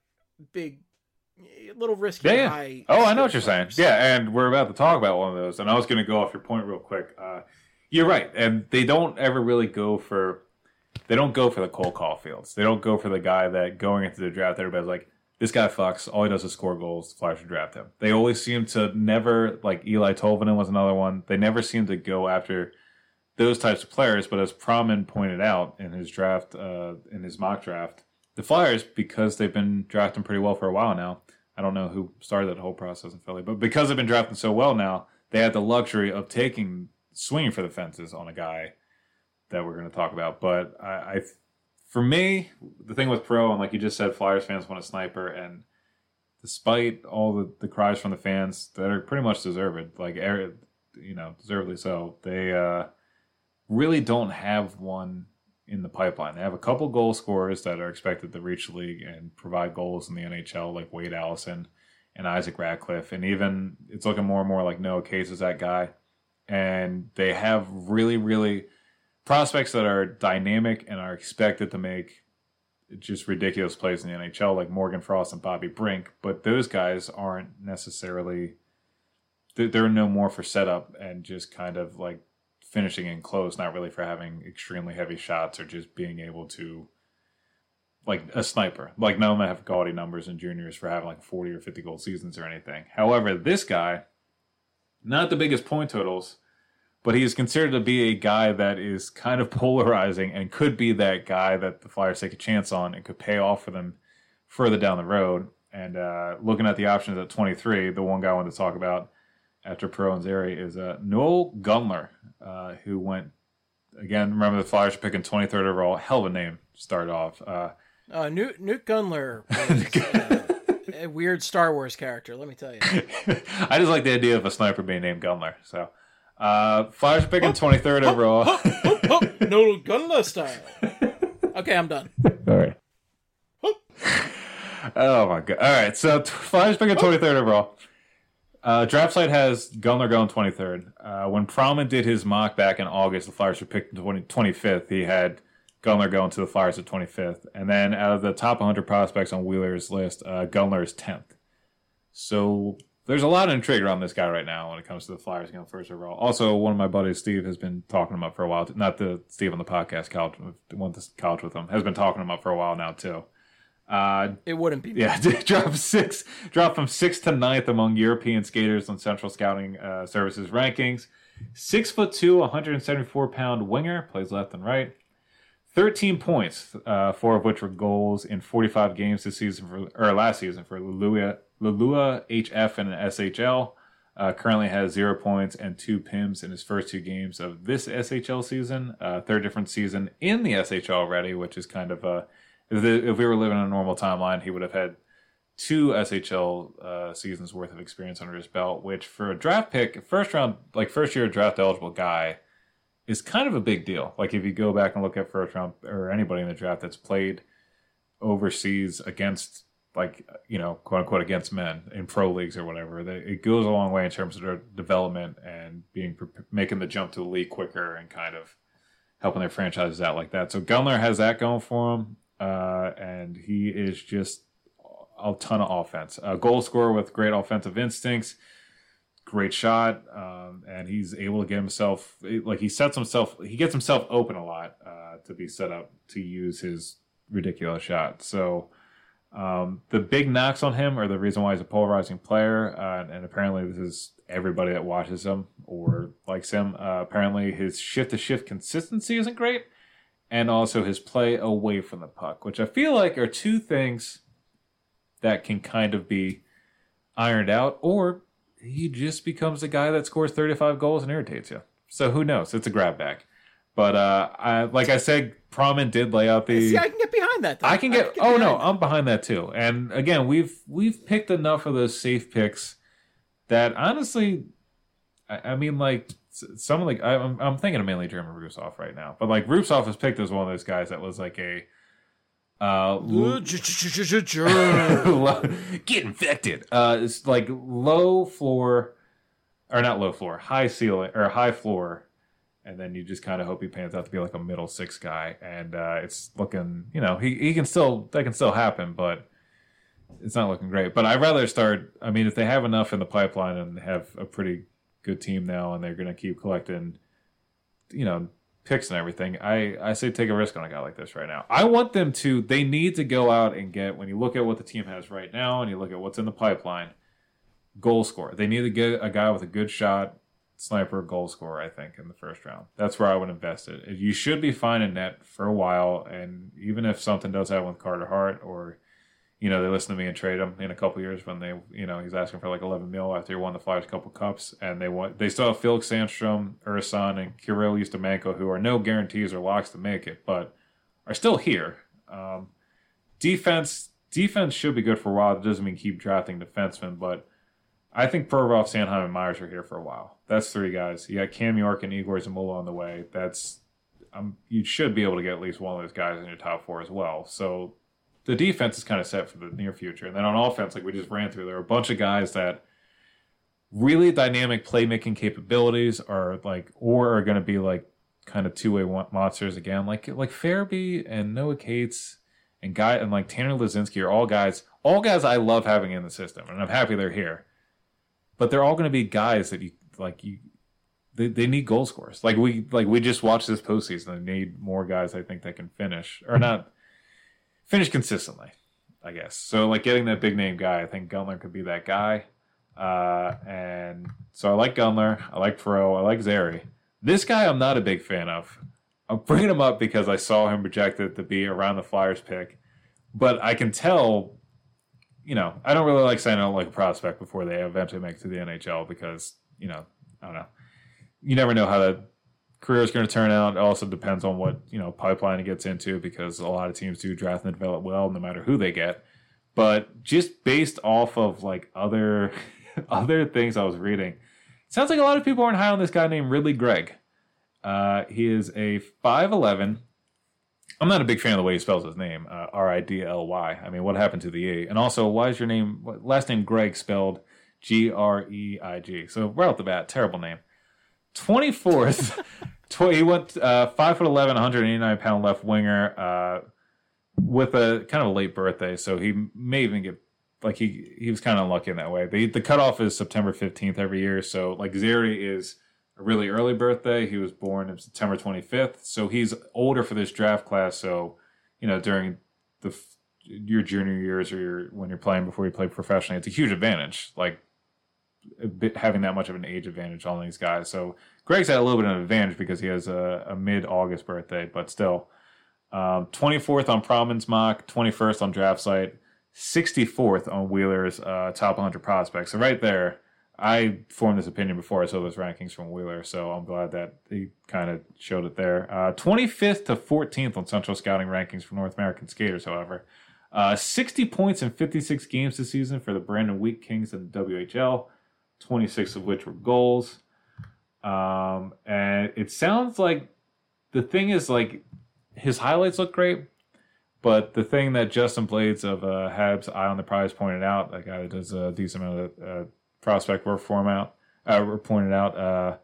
high. Oh, I know what you're saying. Yeah, and we're about to talk about one of those, and I was going to go off your point real quick. You're right, and they don't ever really go for the Cole Caulfields. They don't go for the guy that going into the draft, everybody's like, this guy fucks, all he does is score goals, the Flyers should draft him. They always seem to never, like Eli Tolvanen was another one, they never seem to go after those types of players, but as Promin pointed out in his draft, in his mock draft, the Flyers, because they've been drafting pretty well for a while now, I don't know who started that whole process in Philly, but because they've been drafting so well now, they had the luxury of swinging for the fences on a guy that we're going to talk about. But for me, the thing with Pro, and like you just said, Flyers fans want a sniper, and despite all the cries from the fans that are pretty much deserved, deservedly so, they really don't have one in the pipeline. They have a couple goal scorers that are expected to reach the league and provide goals in the NHL, like Wade Allison and Isaac Ratcliffe, and even it's looking more and more like Noah Case is that guy. And they have really, really prospects that are dynamic and are expected to make just ridiculous plays in the NHL, like Morgan Frost and Bobby Brink. But those guys aren't necessarily, they're no more for setup and just kind of like finishing in close, not really for having extremely heavy shots or just being able to, like a sniper. Like none of them have gaudy numbers in juniors for having like 40 or 50 goal seasons or anything. However, this guy, not the biggest point totals, but he is considered to be a guy that is kind of polarizing and could be that guy that the Flyers take a chance on and could pay off for them further down the road. And looking at the options at 23, the one guy I wanted to talk about after Pro and Zary is Noel Gunler, who went, again, remember the Flyers were picking 23rd overall. Hell of a name to start off. Newt Gunler was a weird Star Wars character, let me tell you. I just like the idea of a sniper being named Gunler. So, Flyers picking 23rd overall. Noel Gunler style. Okay, I'm done. All right. Oh my god! All right, so Flyers picking 23rd overall. Draft site has Gunler going 23rd. When Prowman did his mock back in August, the Flyers were picked 25th. He had Gunler going to the Flyers at 25th. And then out of the top 100 prospects on Wheeler's list, Gunler is 10th. So there's a lot of intrigue around this guy right now when it comes to the Flyers going first overall. Also, one of my buddies, Steve, has been talking him up for a while. Not the Steve on the podcast, went to college with him, has been talking him up for a while now, too. It wouldn't be. Yeah, dropped from 6th to 9th among European skaters on Central Scouting Services rankings. 6'2", 174-pound winger, plays left and right. 13 points, 4 of which were goals in 45 games last season for Lalua HF and SHL. Currently has 0 points and 2 PIMs in his first 2 games of this SHL season. Third different season in the SHL already, which is kind of if we were living in a normal timeline, he would have had 2 SHL seasons worth of experience under his belt, which for a draft pick, first year draft eligible guy, is kind of a big deal. Like if you go back and look at first round or anybody in the draft that's played overseas against, like, you know, quote unquote against men in pro leagues or whatever, it goes a long way in terms of their development and making the jump to the league quicker and kind of helping their franchises out like that. So Gunler has that going for him. And he is just a ton of offense. A goal scorer with great offensive instincts, great shot, and he's able to get himself, like he gets himself open a lot to be set up to use his ridiculous shot. So the big knocks on him are the reason why he's a polarizing player, and apparently this is everybody that watches him or likes him. Apparently his shift-to-shift consistency isn't great. And also his play away from the puck, which I feel like are 2 things that can kind of be ironed out, or he just becomes a guy that scores 35 goals and irritates you. So who knows? It's a grab bag. But like I said, Prowman did lay out the... See, I can get behind that, though. I'm behind that too. And again, we've picked enough of those safe picks that honestly, I mean, like... Some of the I'm thinking of mainly German Rusov right now, but like Rusov is picked as one of those guys that was like a get infected. It's like low floor, or not low floor, high ceiling or high floor, and then you just kind of hope he pans out to be like a middle 6 guy. And it's looking, you know, that can still happen, but it's not looking great. But I'd rather start. I mean, if they have enough in the pipeline and have a pretty good team now, and they're going to keep collecting, you know, picks and everything, I say take a risk on a guy like this right now. I want them to, they need to go out and get, when you look at what the team has right now and you look at what's in the pipeline, goal scorer. They need to get a guy with a good shot, sniper, goal scorer, I think, in the first round. That's where I would invest it. You should be fine in net for a while, and even if something does happen with Carter Hart, or you know, they listen to me and trade him in a couple of years when they, you know, he's asking for like 11 mil after he won the Flyers couple cups, and they still have Felix Sandstrom, Ursan, and Kirill Ustimenko, who are no guarantees or locks to make it, but are still here. Defense should be good for a while. It doesn't mean keep drafting defensemen, but I think Provorov, Sanheim, and Myers are here for a while. That's 3 guys. You got Cam York and Igor Zamula on the way. You should be able to get at least one of those guys in your top 4 as well. So the defense is kind of set for the near future. And then on offense, like we just ran through, there are a bunch of guys that really dynamic playmaking capabilities are going to be like kind of 2-way monsters again. Like Farabee and Noah Cates and like Tanner Lazinski are all guys I love having in the system, and I'm happy they're here. But they're all going to be guys that they need goal scorers. Like we just watched this postseason. They need more guys, I think, that can finish consistently, I guess. So like getting that big name guy, I think Gunler could be that guy. And so I like Gunler, I like Perreault, I like Zary. This guy I'm not a big fan of. I'm bringing him up because I saw him projected to be around the Flyers pick, but I can tell, you know, I don't really like saying I don't like a prospect before they eventually make it to the NHL because, you know, I don't know. You never know how the career is going to turn out. It also depends on what, you know, pipeline it gets into, because a lot of teams do draft and develop well no matter who they get. But just based off of like other things I was reading, it sounds like a lot of people aren't high on this guy named Ridley Gregg. He is a 5'11". I'm not a big fan of the way he spells his name, Ridly. I mean, what happened to the E? And also, why is your last name Greg spelled Greig. So right off the bat, terrible name. 24th. He went 5'11", 189-pound left winger with a kind of a late birthday, so he may even get he was kind of unlucky in that way. The cutoff is September 15th every year, so Zary is a really early birthday. He was born on September 25th, so he's older for this draft class. So during your junior years or when you're playing before you play professionally, it's a huge advantage. Having that much of an age advantage on these guys. So Greg's had a little bit of an advantage because he has a mid-August birthday, but still. 24th on Promin's mock, 21st on Draft Site, 64th on Wheeler's top 100 prospects. So right there, I formed this opinion before I saw those rankings from Wheeler, so I'm glad that he kind of showed it there. 25th to 14th on Central Scouting rankings for North American skaters, however. 60 points in 56 games this season for the Brandon Wheat Kings in the WHL. 26 of which were goals. And it sounds like the thing is his highlights look great, but the thing that Justin Blades of Habs Eye on the Prize pointed out, that guy that does a decent amount of prospect work for him pointed out,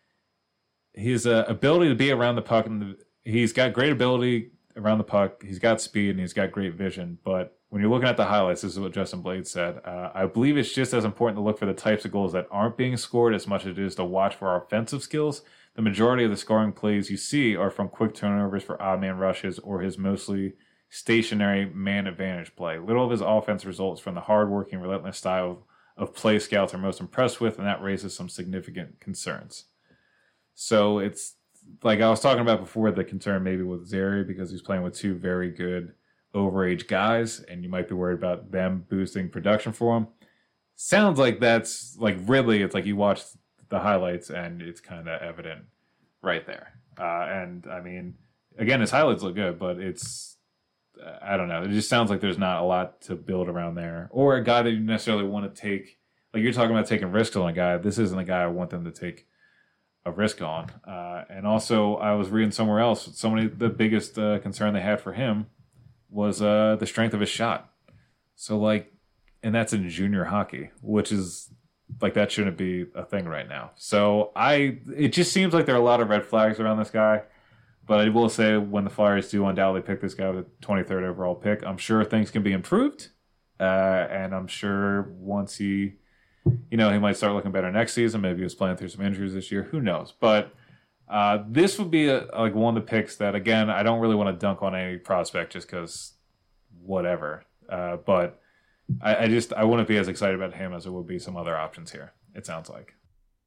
his ability to be around the puck, and he's got great ability around the puck, he's got speed, and he's got great vision, but when you're looking at the highlights, this is what Justin Blades said. I believe it's just as important to look for the types of goals that aren't being scored as much as it is to watch for our offensive skills. The majority of the scoring plays you see are from quick turnovers for odd man rushes or his mostly stationary man advantage play. Little of his offense results from the hard-working, relentless style of play scouts are most impressed with, and that raises some significant concerns. So it's like I was talking about before, the concern maybe with Zary because he's playing with two very good overage guys, and you might be worried about them boosting production for him. Sounds like that's Ridley. It's you watch the highlights and it's kind of evident right there. And I mean, again, his highlights look good, but it's I don't know. It just sounds like there's not a lot to build around there, or a guy that you necessarily want to take. You're talking about taking risks on a guy. This isn't a guy I want them to take a risk on. And also, I was reading somewhere else. The biggest concern they had for him was the strength of his shot. So and that's in junior hockey, which is that shouldn't be a thing right now. So it just seems like there are a lot of red flags around this guy. But I will say, when the Flyers do undoubtedly pick this guy with the 23rd overall pick, I'm sure things can be improved. And I'm sure once he might start looking better next season. Maybe he was playing through some injuries this year. Who knows? But this would be one of the picks that, again, I don't really want to dunk on any prospect just because whatever. But I wouldn't be as excited about him as it would be some other options here, it sounds like.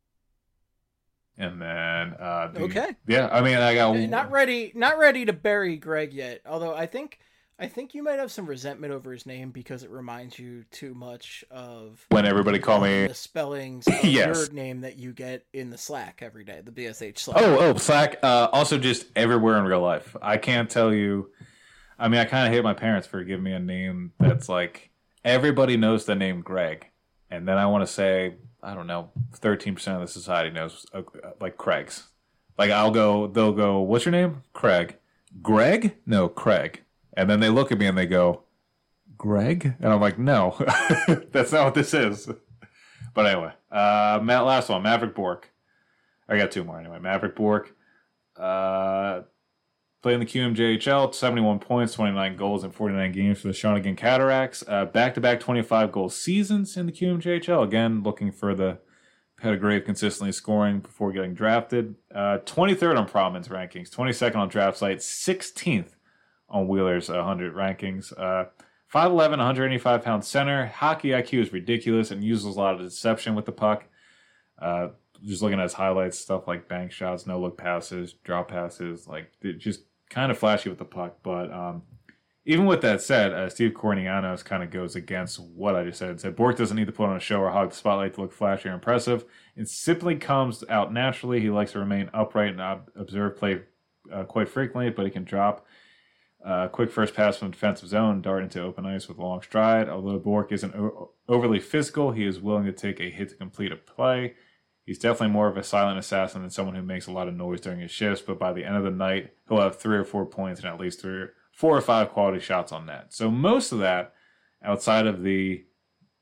And then okay. Yeah, I mean, I got not ready to bury Greg yet. Although I think you might have some resentment over his name because it reminds you too much of when everybody call me the spellings of yes. your name that you get in the Slack every day, the BSH Slack. Slack. Also, just everywhere in real life. I can't tell you. I mean, I kind of hate my parents for giving me a name that's everybody knows the name Greg, and then I want to say, I don't know, 13% of the society knows Craig's. They'll go, what's your name? Craig. Greg? No, Craig. And then they look at me and they go, Greg? And I'm like, no, that's not what this is. But anyway, last one, Maverick Bourque. I got two more anyway. Maverick Bourque, playing the QMJHL, 71 points, 29 goals in 49 games for the Shawinigan Cataracts. Back-to-back 25-goal seasons in the QMJHL. Again, looking for the pedigree of consistently scoring before getting drafted. 23rd on Promin's rankings, 22nd on Draft Site, 16th on Wheeler's 100 rankings. 5'11", 185-pound center. Hockey IQ is ridiculous and uses a lot of deception with the puck. Just looking at his highlights, stuff like bank shots, no-look passes, drop passes, just kind of flashy with the puck. But even with that said, Steve Cornianos kind of goes against what I just said. He said, Bourque doesn't need to put on a show or hog the spotlight to look flashy or impressive. It simply comes out naturally. He likes to remain upright and observe play quite frequently, but he can drop quick first pass from defensive zone, dart into open ice with a long stride. Although Bourque isn't overly physical, he is willing to take a hit to complete a play. He's definitely more of a silent assassin than someone who makes a lot of noise during his shifts, but by the end of the night, he'll have 3 or 4 points and at least 4 or 5 quality shots on net. So most of that, outside of the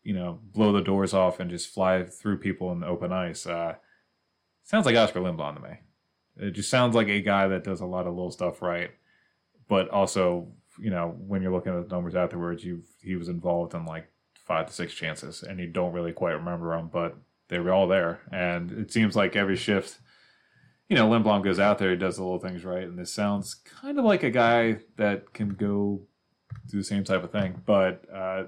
blow the doors off and just fly through people in the open ice. Sounds like Oscar Lindblom to me. It just sounds like a guy that does a lot of little stuff right, but also, when you're looking at the numbers afterwards, he was involved in like 5 to 6 chances, and you don't really quite remember them, but they were all there. And it seems like every shift, Lindblom goes out there, he does the little things right, and this sounds kind of like a guy that can go do the same type of thing. But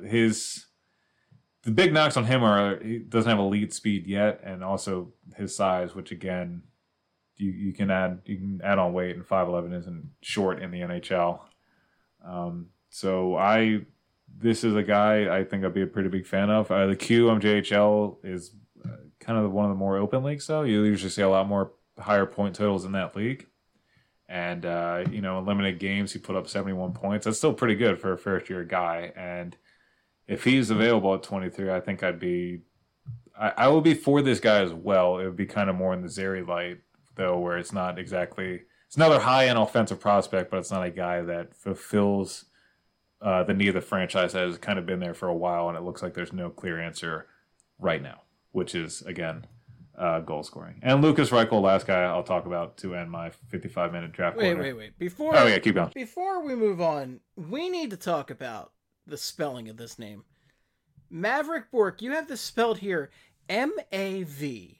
the big knocks on him are he doesn't have elite speed yet, and also his size, which again, you can add on weight, and 5'11" isn't short in the NHL. This is a guy I think I'd be a pretty big fan of. The QMJHL is kind of one of the more open leagues, though. You usually see a lot more higher point totals in that league. And, in limited games, he put up 71 points. That's still pretty good for a first-year guy. And if he's available at 23, I think I will be for this guy as well. It would be kind of more in the Zary light, though, where it's not exactly... It's another high-end offensive prospect, but it's not a guy that fulfills the need of the franchise that has kind of been there for a while, and it looks like there's no clear answer right now, which is, again, goal scoring. And Lucas Reichel, last guy I'll talk about to end my 55-minute draft corner. Wait. Keep going. Before we move on, we need to talk about the spelling of this name. Mavrik Bourque, you have this spelled here Mavrik.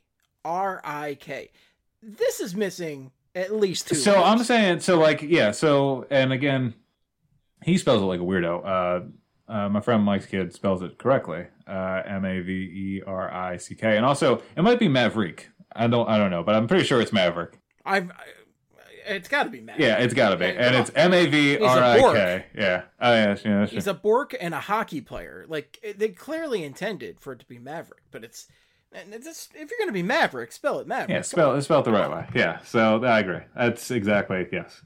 This is missing at least 2 So words. I'm saying, and again, he spells it like a weirdo. My friend Mike's kid spells it correctly, Maverick, and also it might be Maverick. I don't know, but I'm pretty sure it's Maverick. It's got to be Maverick. Yeah, it's got to be, and it's Mavrik. Yeah. Oh yeah. He's a Bourque and a hockey player. Like they clearly intended for it to be Maverick, but it's if you're going to be Maverick, spell it Maverick. Yeah, spell it the right way. Yeah. So I agree. That's exactly yes.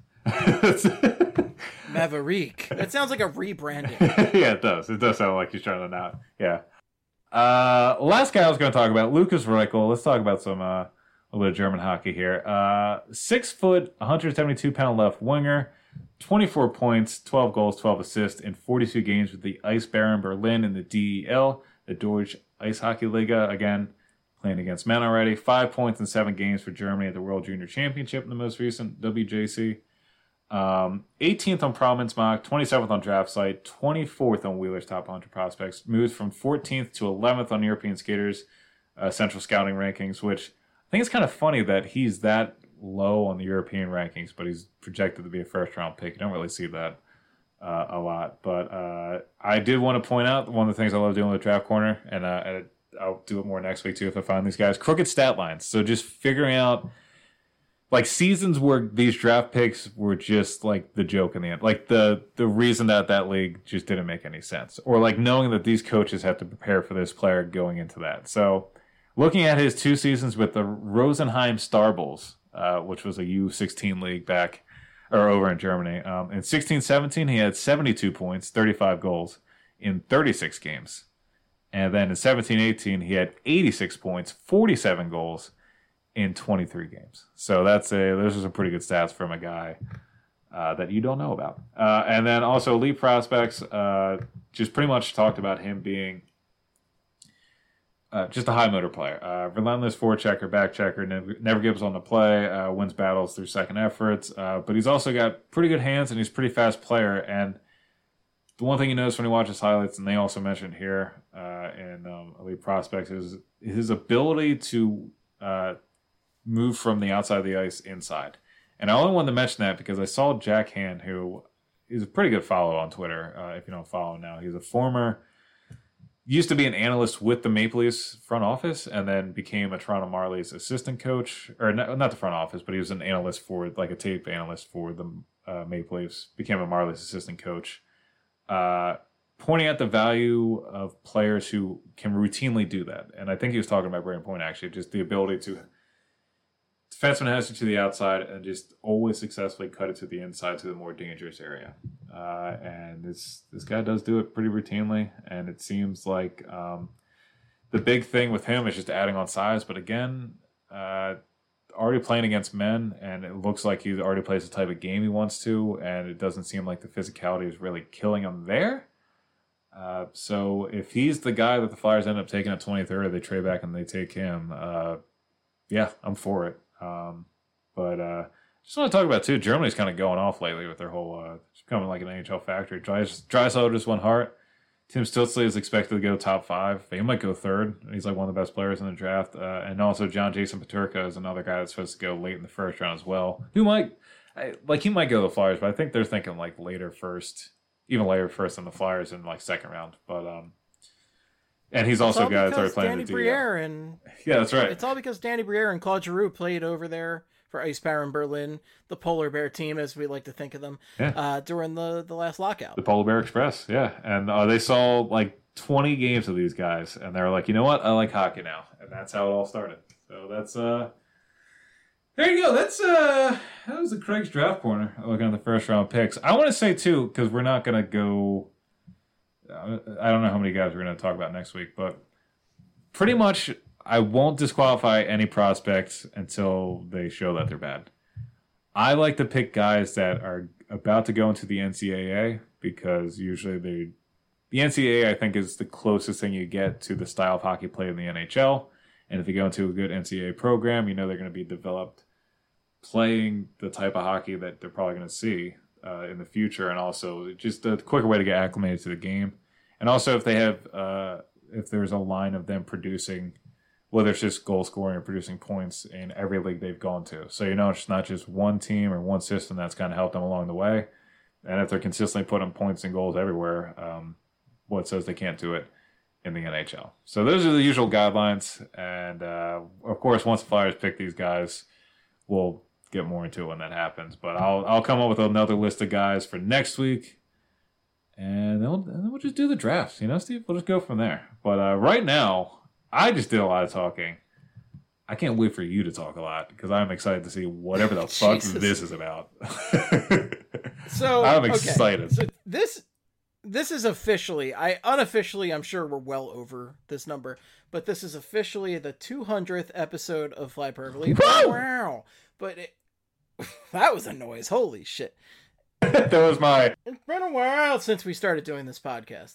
Maverick. That sounds like a rebranding. Yeah, it does. It does sound like he's trying to not. Yeah. Last guy I was going to talk about, Lucas Reichel. Let's talk about some a little bit of German hockey here. 6 foot, 172-pound left winger, 24 points, 12 goals, 12 assists in 42 games with the Eisbären Berlin in the DEL, the Deutsche Eishockey Liga. Again, playing against men already. 5 points in 7 games for Germany at the World Junior Championship in the most recent WJC. 18th on Prominence Mock, 27th on Draft Site, 24th on Wheeler's Top 100 Prospects. Moved from 14th to 11th on European Skaters Central Scouting Rankings, which I think it's kind of funny that he's that low on the European rankings, but he's projected to be a first-round pick. You don't really see that a lot. But I did want to point out one of the things I love doing with Draft Corner, and I'll do it more next week too if I find these guys. Crooked stat lines. So just figuring out like seasons where these draft picks were just like the joke in the end. Like the reason that league just didn't make any sense. Or like knowing that these coaches have to prepare for this player going into that. So looking at his 2 seasons with the Rosenheim Star Bulls, which was a U16 league back or over in Germany. In 16-17, he had 72 points, 35 goals in 36 games. And then in 17-18, he had 86 points, 47 goals in 23 games. So those are some pretty good stats from a guy that you don't know about. And then also elite prospects, just pretty much talked about him being just a high motor player. Relentless forechecker, back checker, never gives on the play, wins battles through second efforts. But he's also got pretty good hands and he's a pretty fast player. And the one thing you notice when you watch his highlights, and they also mentioned here in elite prospects, is his ability to move from the outside of the ice inside. And I only wanted to mention that because I saw Jack Hand, who is a pretty good follow on Twitter, if you don't follow him now. He's used to be an analyst with the Maple Leafs front office and then became a Toronto Marlies assistant coach. Or not the front office, but he was an analyst for, like a tape analyst for the Maple Leafs. Became a Marlies assistant coach. Pointing out the value of players who can routinely do that. And I think he was talking about Brayden Point, actually, just the ability to defenseman has it to the outside and just always successfully cut it to the inside to the more dangerous area. And this guy does do it pretty routinely. And it seems like the big thing with him is just adding on size. But again, already playing against men, and it looks like he already plays the type of game he wants to. And it doesn't seem like the physicality is really killing him there. So if he's the guy that the Flyers end up taking at 23rd, they trade back and they take him. Yeah, I'm for it. But just want to talk about, too, Germany's kind of going off lately with their whole it's becoming like an NHL factory. Draisaitl just won Hart. Tim Stützle is expected to go top 5. He might go 3rd. He's like one of the best players in the draft. And also John Jason Peterka is another guy that's supposed to go late in the first round as well. He might go to the Flyers, but I think they're thinking like later first, even later first than the Flyers in like second round. But and he's also a guy that's already playing Danny Briere and yeah, that's right. It's all because Danny Briere and Claude Giroux played over there for Eisbären Berlin, the Polar Bear team, as we like to think of them, during the last lockout. The Polar Bear Express, yeah. And they saw like 20 games of these guys, and they were like, you know what? I like hockey now. And that's how it all started. So that's, there you go. That was the Craig's Draft Corner, looking at the first round picks. I want to say, too, because we're not going to go, I don't know how many guys we're going to talk about next week, but pretty much I won't disqualify any prospects until they show that they're bad. I like to pick guys that are about to go into the NCAA because usually the NCAA, I think, is the closest thing you get to the style of hockey played in the NHL. And if you go into a good NCAA program, you know they're going to be developed playing the type of hockey that they're probably going to see in the future, and also just a quicker way to get acclimated to the game. And also if they have, if there's a line of them producing, whether it's just goal scoring or producing points in every league they've gone to. So, you know, it's not just one team or one system that's kind of helped them along the way. And if they're consistently putting points and goals everywhere, what says they can't do it in the NHL? So those are the usual guidelines. And, of course, once the Flyers pick these guys, we'll get more into it when that happens. But I'll come up with another list of guys for next week. And then we'll just do the drafts, you know, Steve? We'll just go from there. But right now, I just did a lot of talking. I can't wait for you to talk a lot because I'm excited to see whatever the fuck this is about. So I'm excited. So this is officially, unofficially, I'm sure we're well over this number, but this is officially the 200th episode of Flyperbole. Wow! But that was a noise. Holy shit! That was It's been a while since we started doing this podcast.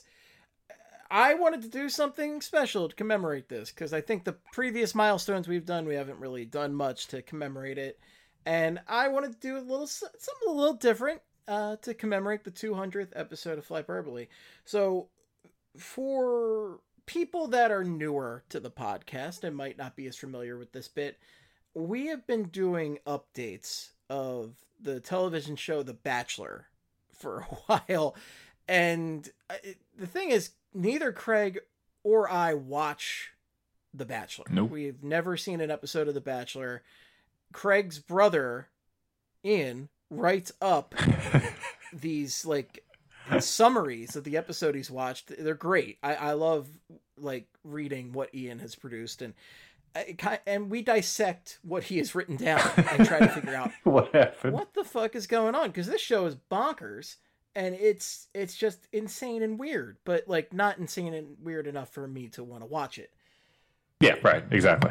I wanted to do something special to commemorate this because I think the previous milestones we've done, we haven't really done much to commemorate it. And I wanted to do something a little different to commemorate the 200th episode of Flyperbole. So for people that are newer to the podcast and might not be as familiar with this bit, we have been doing updates of the television show The Bachelor for a while. And the thing is, neither Craig or I watch The Bachelor. Nope. We've never seen an episode of The Bachelor. Craig's brother, Ian, writes up these like summaries of the episode he's watched. They're great. I love like reading what Ian has produced, and we dissect what he has written down and try to figure out what happened. What the fuck is going on? Because this show is bonkers. And it's just insane and weird, but like not insane and weird enough for me to want to watch it. Yeah, right. Exactly.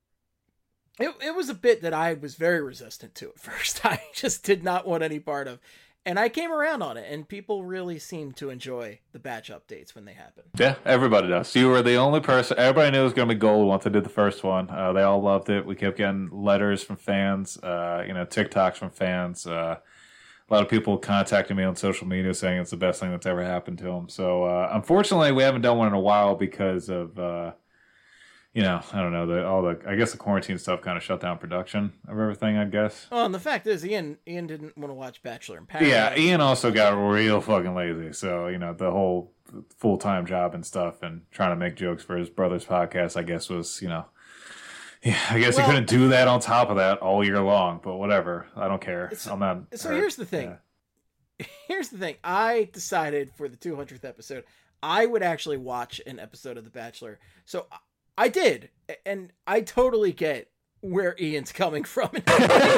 It was a bit that I was very resistant to at first. I just did not want any part of. And I came around on it, and people really seem to enjoy the batch updates when they happen. Yeah, everybody does. You were the only person. Everybody knew it was going to be gold once I did the first one. They all loved it. We kept getting letters from fans, TikToks from fans. A lot of people contacting me on social media saying it's the best thing that's ever happened to them. So, unfortunately, we haven't done one in a while because of, I don't know, I guess the quarantine stuff kind of shut down production of everything, I guess. Oh, and the fact is, Ian didn't want to watch Bachelor in Paradise. Yeah, Ian also got real fucking lazy. So, the whole full-time job and stuff and trying to make jokes for his brother's podcast, I guess was, yeah, I guess he couldn't do that on top of that all year long, but whatever. I don't care. I'm not. So here's the thing. Yeah. Here's the thing. I decided for the 200th episode, I would actually watch an episode of The Bachelor. So I did, and I totally get where Ian's coming from. It's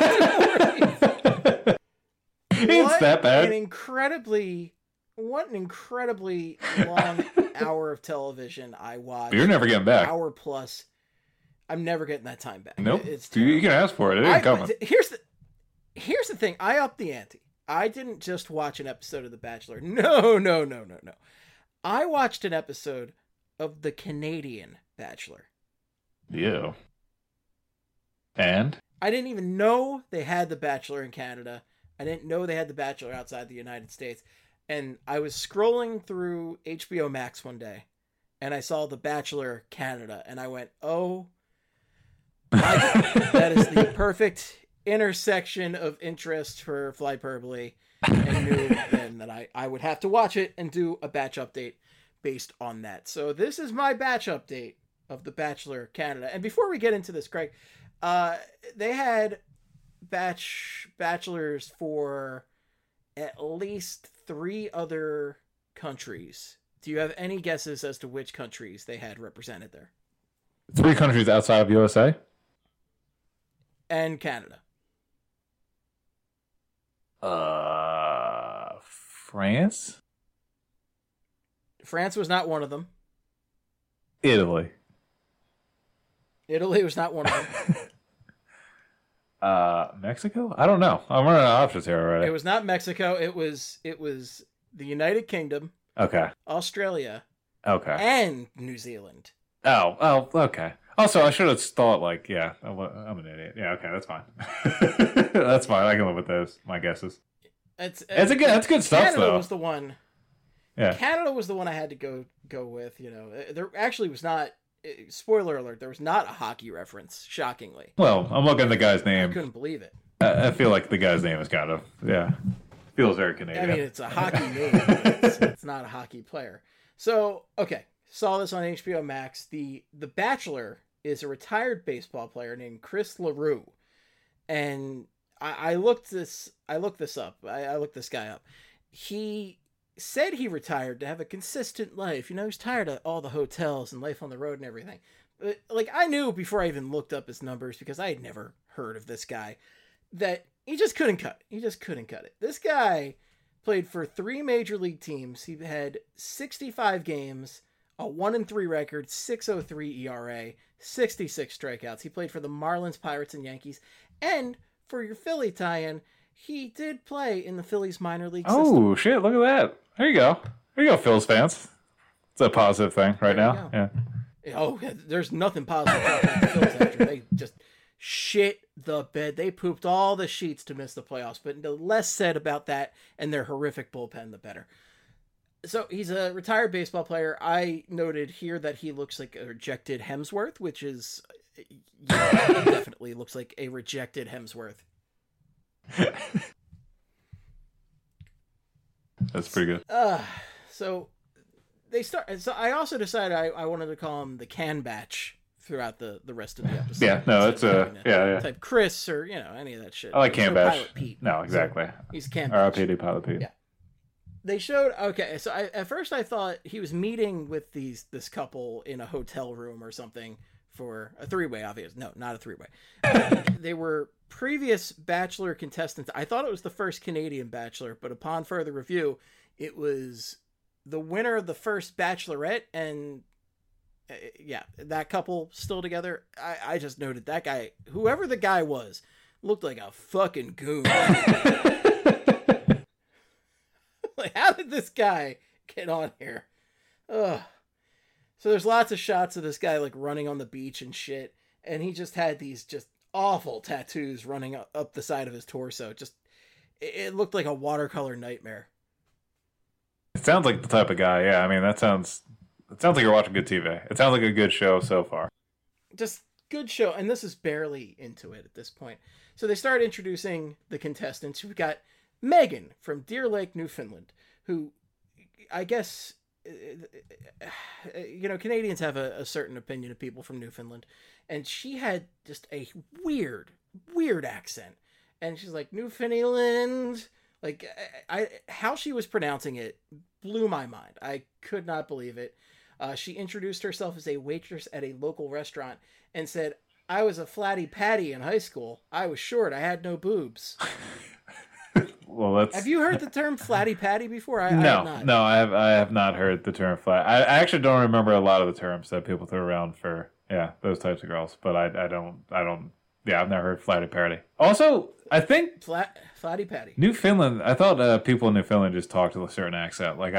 that bad. What an incredibly long hour of television I watched. You're never getting back. Hour plus. I'm never getting that time back. Nope. You can ask for it. It ain't coming. Here's the thing. I upped the ante. I didn't just watch an episode of The Bachelor. No. I watched an episode of the Canadian Bachelor. Yeah. And? I didn't even know they had The Bachelor in Canada. I didn't know they had The Bachelor outside the United States. And I was scrolling through HBO Max one day, and I saw The Bachelor Canada, and I went, oh, my God, that is the perfect intersection of interest for Flyperbole, and knew then that I would have to watch it and do a batch update based on that. So this is my batch update of The Bachelor Canada. And before we get into this, Craig, they had bachelors for at least 3 other countries. Do you have any guesses as to which countries they had represented there? 3 countries outside of USA? And Canada. France? France was not one of them. Italy was not one of them. Mexico? I don't know. I'm running out of options here already. It was not Mexico. It was the United Kingdom. Okay. Australia. Okay. And New Zealand. Oh, okay. Also, I should have thought, like, yeah, I'm an idiot. Yeah, okay, that's fine. That's fine. I can live with those, my guesses. That's good stuff, Canada though. Was the one. Yeah. Canada was the one I had to go with, you know. There actually was not, spoiler alert, there was not a hockey reference, shockingly. Well, I'm looking at the guy's name. I couldn't believe it. I feel like the guy's name is kind of, feels very Canadian. I mean, it's a hockey name, but it's not a hockey player. So, okay, saw this on HBO Max. The Bachelor is a retired baseball player named Chris LaRue. And I looked this up. I looked this guy up. He said he retired to have a consistent life. You know, he's tired of all the hotels and life on the road and everything. But, like, I knew before I even looked up his numbers, because I had never heard of this guy, that he just couldn't cut it. This guy played for 3 major league teams. He had 65 games, a 1-3 record, 6.03 ERA, 66 strikeouts. He played for the Marlins, Pirates, and Yankees. And for your Philly tie-in, he did play in the Phillies minor league system. Oh, shit, look at that. There you go, Phil's fans. It's a positive thing right now. Yeah. Oh, there's nothing positive about the Phillies after they just shit the bed. They pooped all the sheets to miss the playoffs, but the less said about that and their horrific bullpen, the better. So he's a retired baseball player. I noted here that he looks like a rejected Hemsworth, which is definitely looks like a rejected Hemsworth. That's pretty good. So I also decided I wanted to call him the Can Batch throughout the rest of the episode. Yeah, no, it's type Chris or any of that shit. I like Can Batch. Pilot Pete. No, exactly. So he's Can Batch. RIPD Pilot Pete. Yeah. They showed so at first I thought he was meeting with this couple in a hotel room or something for a 3-way, obvious. No, not a 3-way. They were previous Bachelor contestants. I thought it was the first Canadian Bachelor, but upon further review, it was the winner of the first Bachelorette, and that couple still together. I just noted that guy, whoever the guy was, looked like a fucking goon. Like, how did this guy get on here? Ugh. So there's lots of shots of this guy like running on the beach and shit, and he just had these just awful tattoos running up the side of his torso. Just it looked like a watercolor nightmare. It sounds like the type of guy. Yeah, I mean it sounds like you're watching good TV. It sounds like a good show so far. Just good show, and this is barely into it at this point. So they start introducing the contestants. We've got Megan from Deer Lake, Newfoundland, who I guess, Canadians have a certain opinion of people from Newfoundland, and she had just a weird accent, and she's like, Newfoundland, like, how she was pronouncing it blew my mind. I could not believe it. She introduced herself as a waitress at a local restaurant and said, I was a flatty patty in high school. I was short. I had no boobs. Well, that's... Have you heard the term flatty patty before? No, I have not heard the term flat. I actually don't remember a lot of the terms that people throw around for those types of girls. But I don't. Yeah, I've never heard flatty patty. Also, I think flatty patty. Newfoundland. I thought people in Newfoundland just talked with a certain accent. Like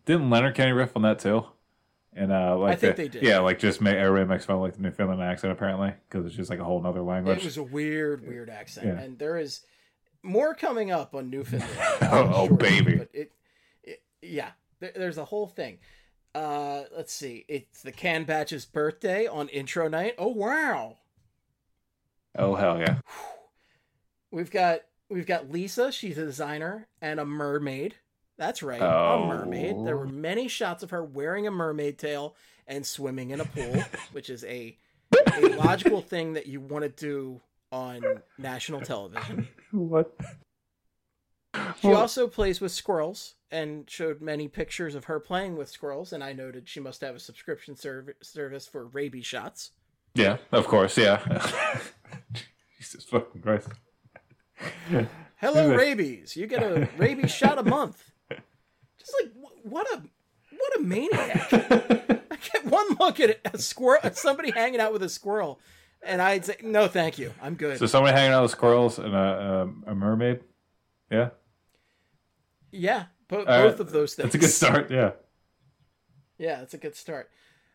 Didn't Leonard Kenny riff on that too? And I think they did. Yeah, like just everybody makes fun of like the Newfoundland accent apparently because it's just like a whole nother language. It was a weird accent, and there is more coming up on Newfoundland. Baby! But there's a whole thing. Let's see. It's the Can Batch's birthday on intro night. Oh wow! Oh hell yeah! We've got Lisa. She's a designer and a mermaid. That's right, a mermaid. There were many shots of her wearing a mermaid tail and swimming in a pool, which is a logical thing that you want to do on national television. What? She also plays with squirrels and showed many pictures of her playing with squirrels, and I noted she must have a subscription service for rabies shots. Yeah, of course, yeah. Jesus fucking Christ. Hello, rabies. You get a rabies shot a month. Just like, what a maniac. I get one look at a squirrel, somebody hanging out with a squirrel, and I'd say, no, thank you. I'm good. So somebody hanging out with squirrels and a mermaid? Yeah? Yeah, both of those things. That's a good start, yeah. Yeah, that's a good start.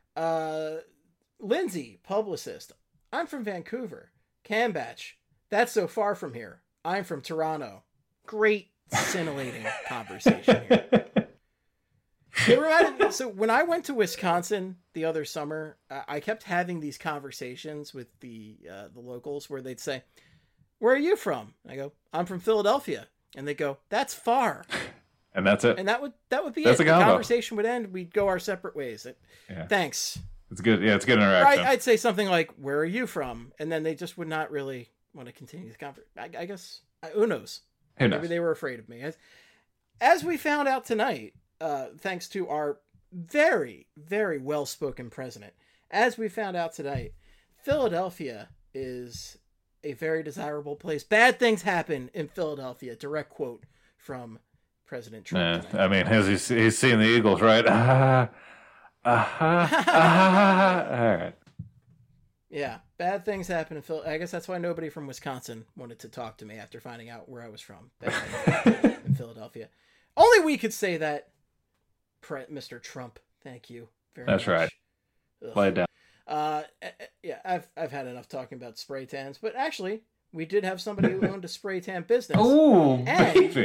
Lindsay, publicist. I'm from Vancouver. Can Batch. That's so far from here. I'm from Toronto. Great, scintillating conversation here. So when I went to Wisconsin the other summer, I kept having these conversations with the locals where they'd say, "Where are you from?" I go, "I'm from Philadelphia," and they go, "That's far." And that's it. And that would be that's it. The conversation would end. We'd go our separate ways. Thanks. It's good. Yeah, it's good interaction. I'd say something like, "Where are you from?" And then they just would not really want to continue the conversation. I guess who knows? Maybe they were afraid of me. As we found out tonight, thanks to our very, very well-spoken president, as we found out tonight, Philadelphia is a very desirable place. Bad things happen in Philadelphia. Direct quote from President Trump. I mean, he's seeing the Eagles, right? All right. Yeah, bad things happen in Philadelphia. I guess that's why nobody from Wisconsin wanted to talk to me after finding out where I was from in Philadelphia. Only we could say that, Mr. Trump. Thank you very much. That's right. Play it down. Yeah, I've had enough talking about spray tans, but actually, we did have somebody who owned a spray tan business. Oh, baby.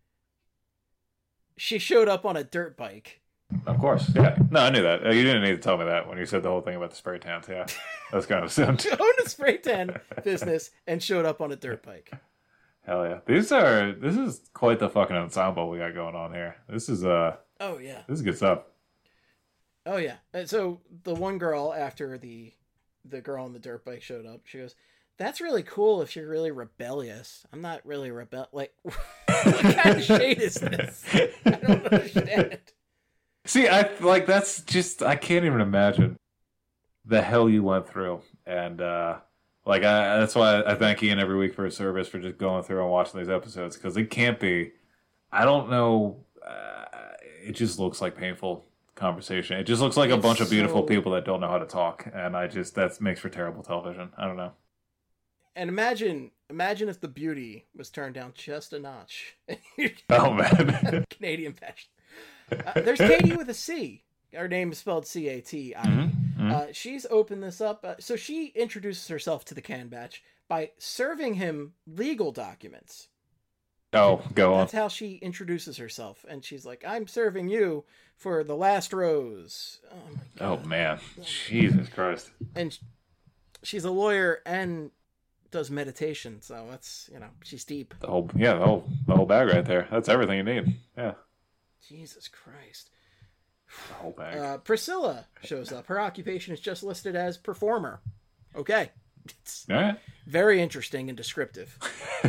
She showed up on a dirt bike. Of course, yeah. No, I knew that. You didn't need to tell me that when you said the whole thing about the spray tans. Yeah, that's kind of assumed. She owned a spray tan business and showed up on a dirt bike. Hell yeah! This is quite the fucking ensemble we got going on here. This is oh yeah. This is good stuff. Oh yeah. And so the one girl after the girl on the dirt bike showed up, she goes, "That's really cool if you're really rebellious. I'm not really like what kind of shade is this? I don't understand." See, that's just, I can't even imagine the hell you went through. And, that's why I thank Ian every week for his service, for just going through and watching these episodes. Because it can't be, I don't know, it just looks like painful conversation. It just looks like a bunch of beautiful people that don't know how to talk. And that makes for terrible television. I don't know. And imagine if the beauty was turned down just a notch. Oh, man. Canadian fashion. There's Katie with a C. Her name is spelled C-A-T-I. Mm-hmm. She's opened this up. So she introduces herself to the Can Batch by serving him legal documents. Oh, go on. That's how she introduces herself. And she's like, "I'm serving you for the last rose." Oh, my God. Oh, man. Jesus Christ. And she's a lawyer and does meditation. So that's, she's deep. The whole bag right there. That's everything you need. Yeah. Jesus Christ. The whole bag. Priscilla shows up. Her occupation is just listed as performer. Okay. It's very interesting and descriptive.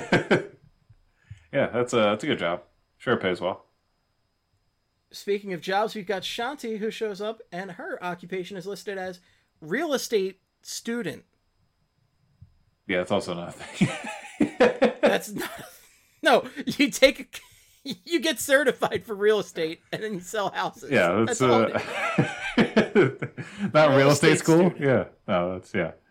Yeah, that's a good job. Sure, it pays well. Speaking of jobs, we've got Shanti who shows up, and her occupation is listed as real estate student. Yeah, it's also not a thing. That's not... No, you get certified for real estate and then you sell houses. Yeah, that's not real estate school. Student. Yeah, no, that's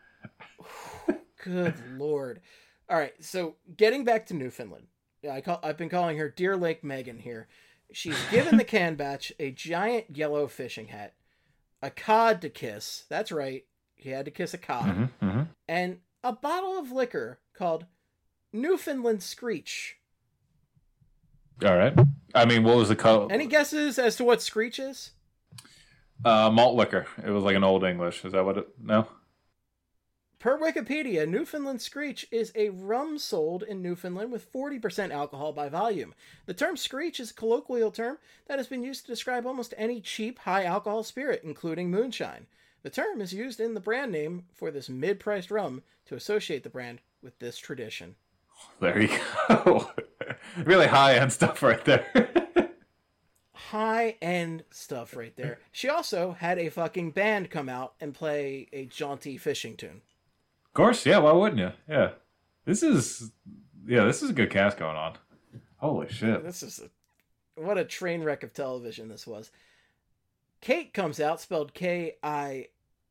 Good Lord! All right, so getting back to Newfoundland, I've been calling her Deer Lake Megan here. She's given the can batch a giant yellow fishing hat, a cod to kiss. That's right. He had to kiss a cod. And a bottle of liquor called Newfoundland Screech. All right. I mean, what was the color? Any guesses as to what Screech is? Malt liquor. It was like an Old English. Is that what it... No? Per Wikipedia, Newfoundland Screech is a rum sold in Newfoundland with 40% alcohol by volume. The term Screech is a colloquial term that has been used to describe almost any cheap, high-alcohol spirit, including moonshine. The term is used in the brand name for this mid-priced rum to associate the brand with this tradition. There you go. Really high-end stuff right there. High-end stuff right there. She also had a fucking band come out and play a jaunty fishing tune. Of course, yeah, why wouldn't you? Yeah. This is a good cast going on. Holy shit. What a train wreck of television this was. Kate comes out, spelled K-A-I-T,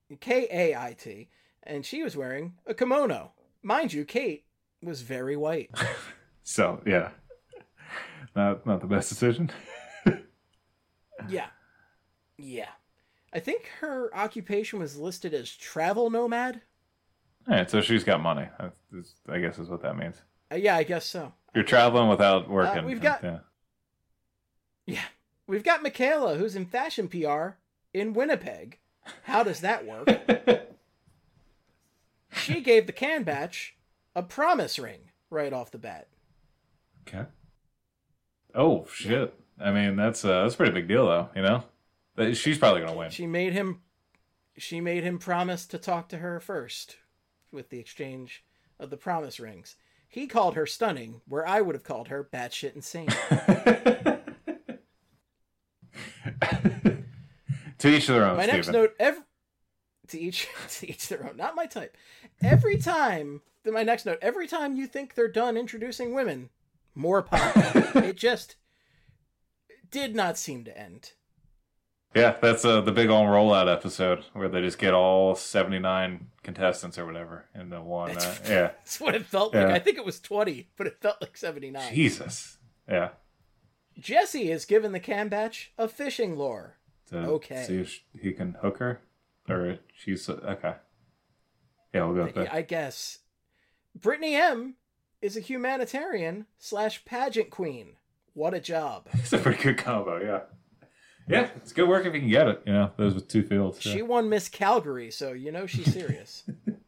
and she was wearing a kimono. Mind you, Kate was very white. So, yeah. Not the best decision. Yeah. I think her occupation was listed as travel nomad. All right, so she's got money. I guess is what that means. Yeah, I guess so. You're traveling without working. We've got Michaela, who's in fashion PR in Winnipeg. How does that work? She gave the can batch a promise ring right off the bat. Okay. Oh shit! I mean, that's a pretty big deal, though. You know, she's probably gonna win. She made him promise to talk to her first, with the exchange of the promise rings. He called her stunning, where I would have called her batshit insane. To each their own. My next note, to each their own. Not my type. Every time you think they're done introducing women, more pop. It just did not seem to end. Yeah, that's the big old rollout episode where they just get all 79 contestants or whatever in the one. Yeah, that's what it felt like. I think it was 20, but it felt like 79. Jesus. Yeah. Jesse is given the can batch a fishing lure. Okay. See if he can hook her, or she's okay. Yeah, we'll go with that. I guess. Brittany M is a humanitarian / pageant queen. What a job. It's a pretty good combo, yeah. Yeah, it's good work if you can get it. You know, those with two fields. She won Miss Calgary, so you know she's serious.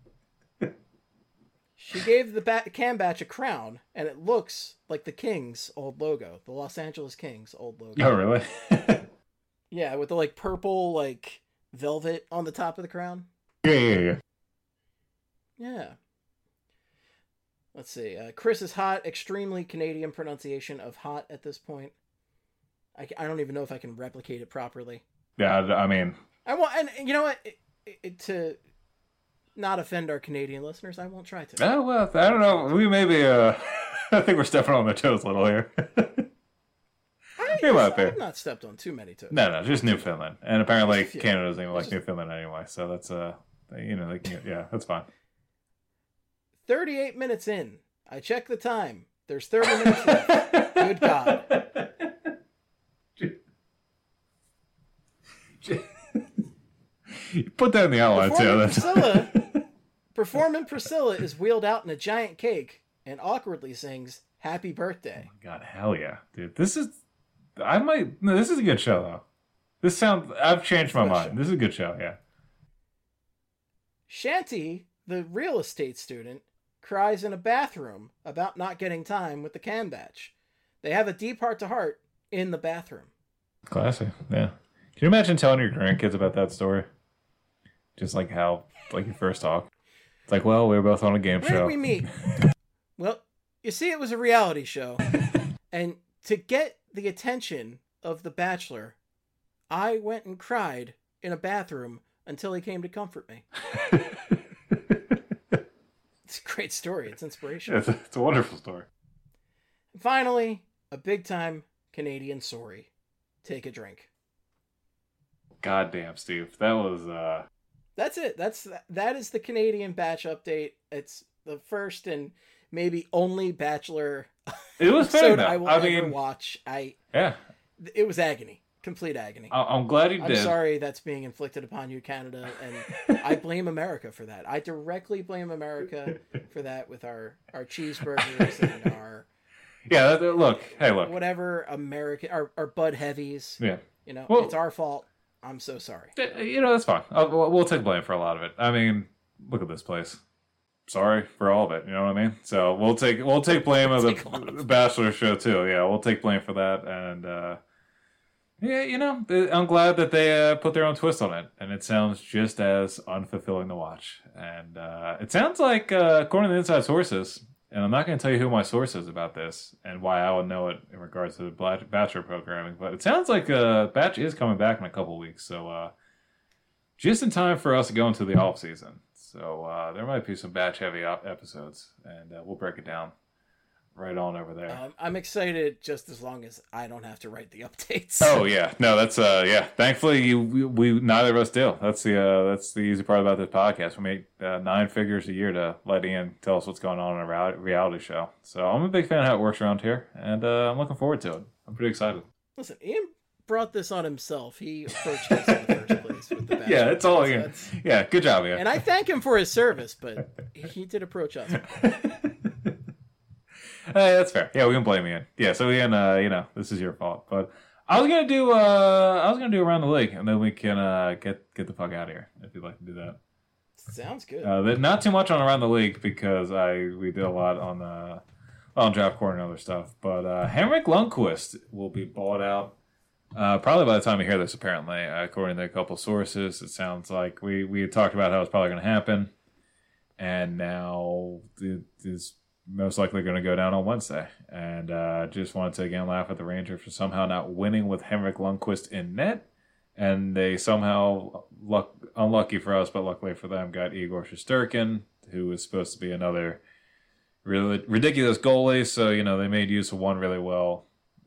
She gave the can batch a crown, and it looks like the Kings' old logo, the Los Angeles Kings' old logo. Oh, really? Yeah, with the purple velvet on the top of the crown. Yeah. Yeah. Let's see. Chris is hot. Extremely Canadian pronunciation of hot at this point. I don't even know if I can replicate it properly. Yeah, I mean... and you know what? To not offend our Canadian listeners, I won't try to. Oh, well, I don't know. We may be... I think we're stepping on their toes a little here. I've not stepped on too many toes. No, just Newfoundland. And apparently Canada doesn't even like Newfoundland anyway, so that's, they can get, that's fine. 38 minutes in. I check the time. There's 30 minutes left. Good God. You put that in the outline, too. Performing Priscilla is wheeled out in a giant cake and awkwardly sings Happy Birthday. Oh my God, hell yeah. Dude, this is a good show, though. I've changed my mind. This is a good show, yeah. Shanty, the real estate student, cries in a bathroom about not getting time with the can batch. They have a deep heart-to-heart in the bathroom. Classic, yeah. Can you imagine telling your grandkids about that story? Just how you first talk. It's we were both on a game show. Where did we meet? Well, you see, it was a reality show. And to get the attention of the Bachelor, I went and cried in a bathroom until he came to comfort me. It's a great story. It's inspirational. It's a wonderful story. And finally, a big-time Canadian sorry. Take a drink. Goddamn, Steve. That was... That's it. That is the Canadian Batch update. It's the first and maybe only Bachelor it was episode fair, I will ever watch. Yeah. It was agony. Complete agony. I'm glad you did. I'm sorry that's being inflicted upon you, Canada, and I blame America for that. I directly blame America for that with our cheeseburgers and our... Yeah, look. Whatever American... Our Bud Heavies. Yeah. It's our fault. I'm so sorry. That's fine. We'll take blame for a lot of it. I mean, look at this place. Sorry for all of it. You know what I mean? So we'll take blame of the Bachelor show too. Yeah, we'll take blame for that. And I'm glad that they put their own twist on it, and it sounds just as unfulfilling to watch. And it sounds like, according to the inside sources, and I'm not going to tell you who my source is about this and why I would know it in regards to the Bachelor programming, but it sounds like Batch is coming back in a couple weeks. So just in time for us to go into the off season. So there might be some Batch heavy episodes, and we'll break it down right on over there. I'm excited just as long as I don't have to write the updates. Oh yeah, no, that's Thankfully, we neither of us do. That's the easy part about this podcast. We make 9 figures a year to let Ian tell us what's going on in a reality show. So I'm a big fan of how it works around here, and I'm looking forward to it. I'm pretty excited. Listen, Ian brought this on himself. He approached us in the first place with the Bachelor. Yeah, it's all Ian. Yeah, good job, Ian. And I thank him for his service, but he did approach us. Hey, that's fair. Yeah, we can blame Ian. Yeah, so Ian, this is your fault. But I was gonna do around the league, and then we can get the fuck out of here if you'd like to do that. Sounds good. Not too much on around the league because we did a lot on draft court and other stuff. But Henrik Lundqvist will be bought out probably by the time you hear this. Apparently, according to a couple sources, it sounds like we had talked about how it's probably going to happen, and now it is most likely going to go down on Wednesday. And just wanted to again laugh at the Rangers for somehow not winning with Henrik Lundqvist in net. And they somehow, unlucky for us, but luckily for them, got Igor Shesterkin, who was supposed to be another really ridiculous goalie. So, they made use of one really well.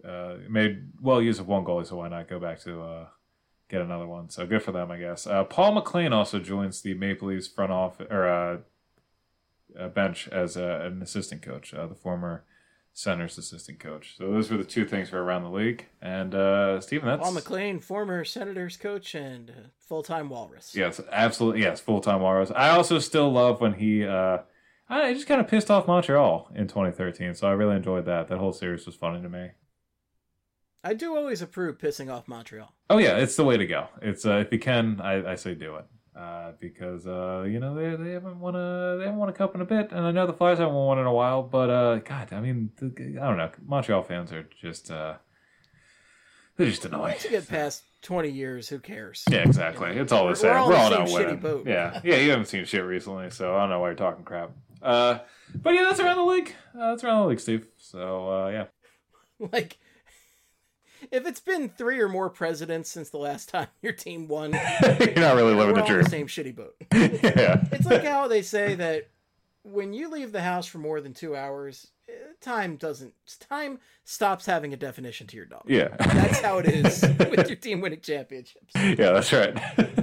Use of one goalie, so why not go back to get another one? So good for them, I guess. Paul McLean also joins the Maple Leafs front office, or bench as an assistant coach, the former Senators assistant coach. So those were the 2 things for around the league. And Stephen, that's Paul McLean, former Senators coach and full-time Walrus. Yes, absolutely. Yes, full-time Walrus. I also still love when he just kind of pissed off Montreal in 2013. So I really enjoyed that. That whole series was funny to me. I do always approve pissing off Montreal. Oh yeah, it's the way to go. It's if you can, I say do it. Because they haven't won a cup in a bit, and I know the Flyers haven't won one in a while. But God, I mean, I don't know. Montreal fans are just they're just annoying. Once you get past 20 years, who cares? Yeah, exactly. It's all the same. We're all not winning. Boat. Yeah. You haven't seen shit recently, so I don't know why you're talking crap. But yeah, that's around the league. That's around the league, Steve. So yeah. Like, if it's been 3 or more presidents since the last time your team won, you're not really living the dream. The same shitty boat. Yeah. It's like how they say that when you leave the house for more than 2 hours, time stops having a definition to your dog. Yeah. That's how it is with your team winning championships. Yeah, that's right.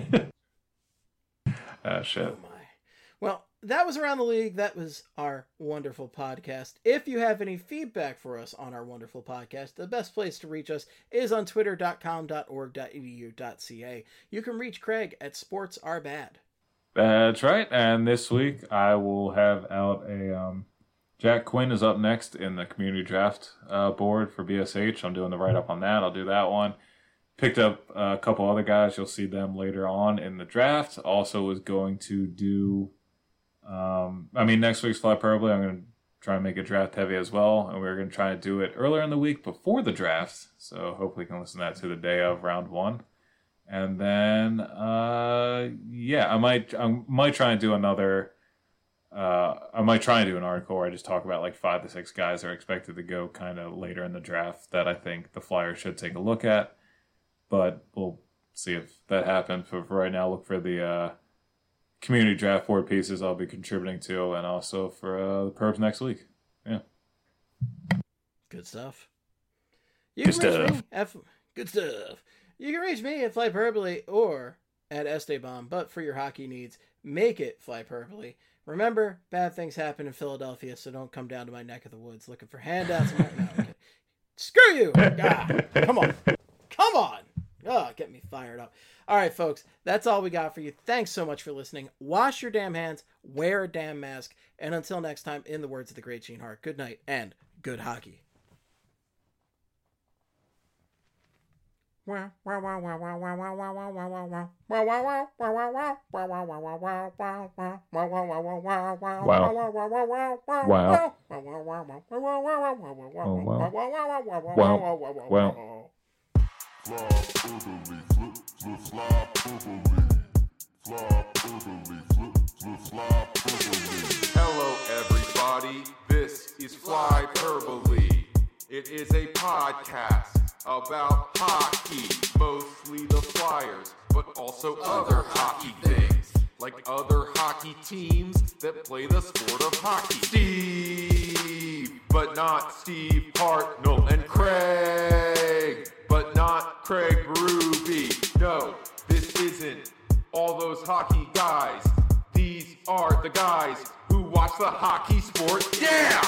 Shit. Oh my. Well, that was Around the League. That was our wonderful podcast. If you have any feedback for us on our wonderful podcast, the best place to reach us is on twitter.com.org.edu.ca. You can reach Craig at Sports Are Bad. That's right. And this week I will have out a Jack Quinn is up next in the community draft board for BSH. I'm doing the write-up on that. I'll do that one. Picked up a couple other guys. You'll see them later on in the draft. Also was going to do... next week's Flyperbole, I'm going to try and make it draft heavy as well. And we're going to try to do it earlier in the week before the draft. So hopefully you can listen to that to the day of round 1. And then, I might try and do another, I might try and do an article where I just talk about like 5 to 6 guys that are expected to go kind of later in the draft that I think the Flyers should take a look at. But we'll see if that happens. But for right now, look for the, community draft board pieces I'll be contributing to, and also for the Perps next week. Yeah. Good stuff. Good stuff. You can reach me at Flyperbole or at Esteban, but for your hockey needs, make it Flyperbole. Remember, bad things happen in Philadelphia, so don't come down to my neck of the woods looking for handouts. No, okay. Screw you! Come on. Come on. Oh, get me fired up. All right, folks, that's all we got for you. Thanks so much for listening. Wash your damn hands, wear a damn mask, and until next time, in the words of the great Gene Hart, good night and good hockey. Wow. Hello, everybody. This is Flyperbole. It is a podcast about hockey, mostly the Flyers, but also other hockey things, like other hockey teams that play the sport of hockey. Steve, but not Steve Hartnell, and Craig, but not Craig Berube. No, this isn't all those hockey guys. These are the guys who watch the hockey sport. Yeah!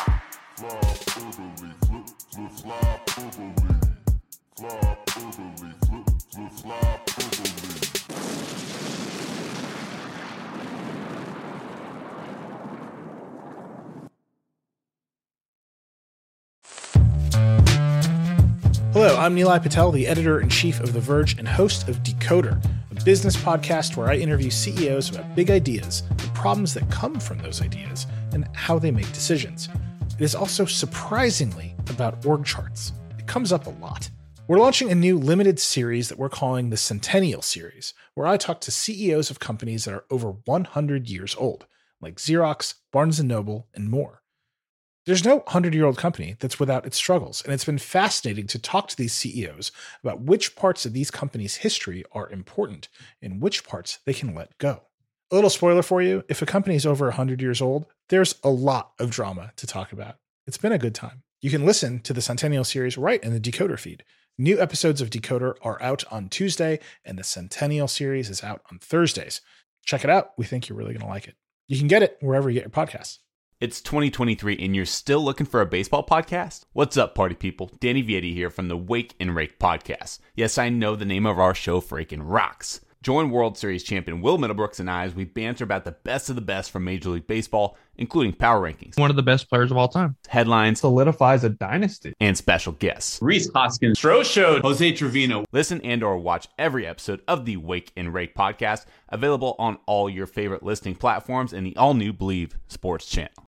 Hello, I'm Nilay Patel, the editor-in-chief of The Verge and host of Decoder, a business podcast where I interview CEOs about big ideas, the problems that come from those ideas, and how they make decisions. It is also surprisingly about org charts. It comes up a lot. We're launching a new limited series that we're calling the Centennial Series, where I talk to CEOs of companies that are over 100 years old, like Xerox, Barnes & Noble, and more. There's no 100-year-old company that's without its struggles, and it's been fascinating to talk to these CEOs about which parts of these companies' history are important and which parts they can let go. A little spoiler for you, if a company is over 100 years old, there's a lot of drama to talk about. It's been a good time. You can listen to the Centennial Series right in the Decoder feed. New episodes of Decoder are out on Tuesday, and the Centennial Series is out on Thursdays. Check it out. We think you're really going to like it. You can get it wherever you get your podcasts. It's 2023 and you're still looking for a baseball podcast? What's up, party people? Danny Vietti here from the Wake and Rake podcast. Yes, I know the name of our show freaking rocks. Join World Series champion Will Middlebrooks and I as we banter about the best of the best from Major League Baseball, including power rankings, one of the best players of all time, headlines, solidifies a dynasty, and special guests. Rhys Hoskins, Stroh showed, Jose Trevino. Listen and or watch every episode of the Wake and Rake podcast, available on all your favorite listening platforms and the all-new Believe Sports channel.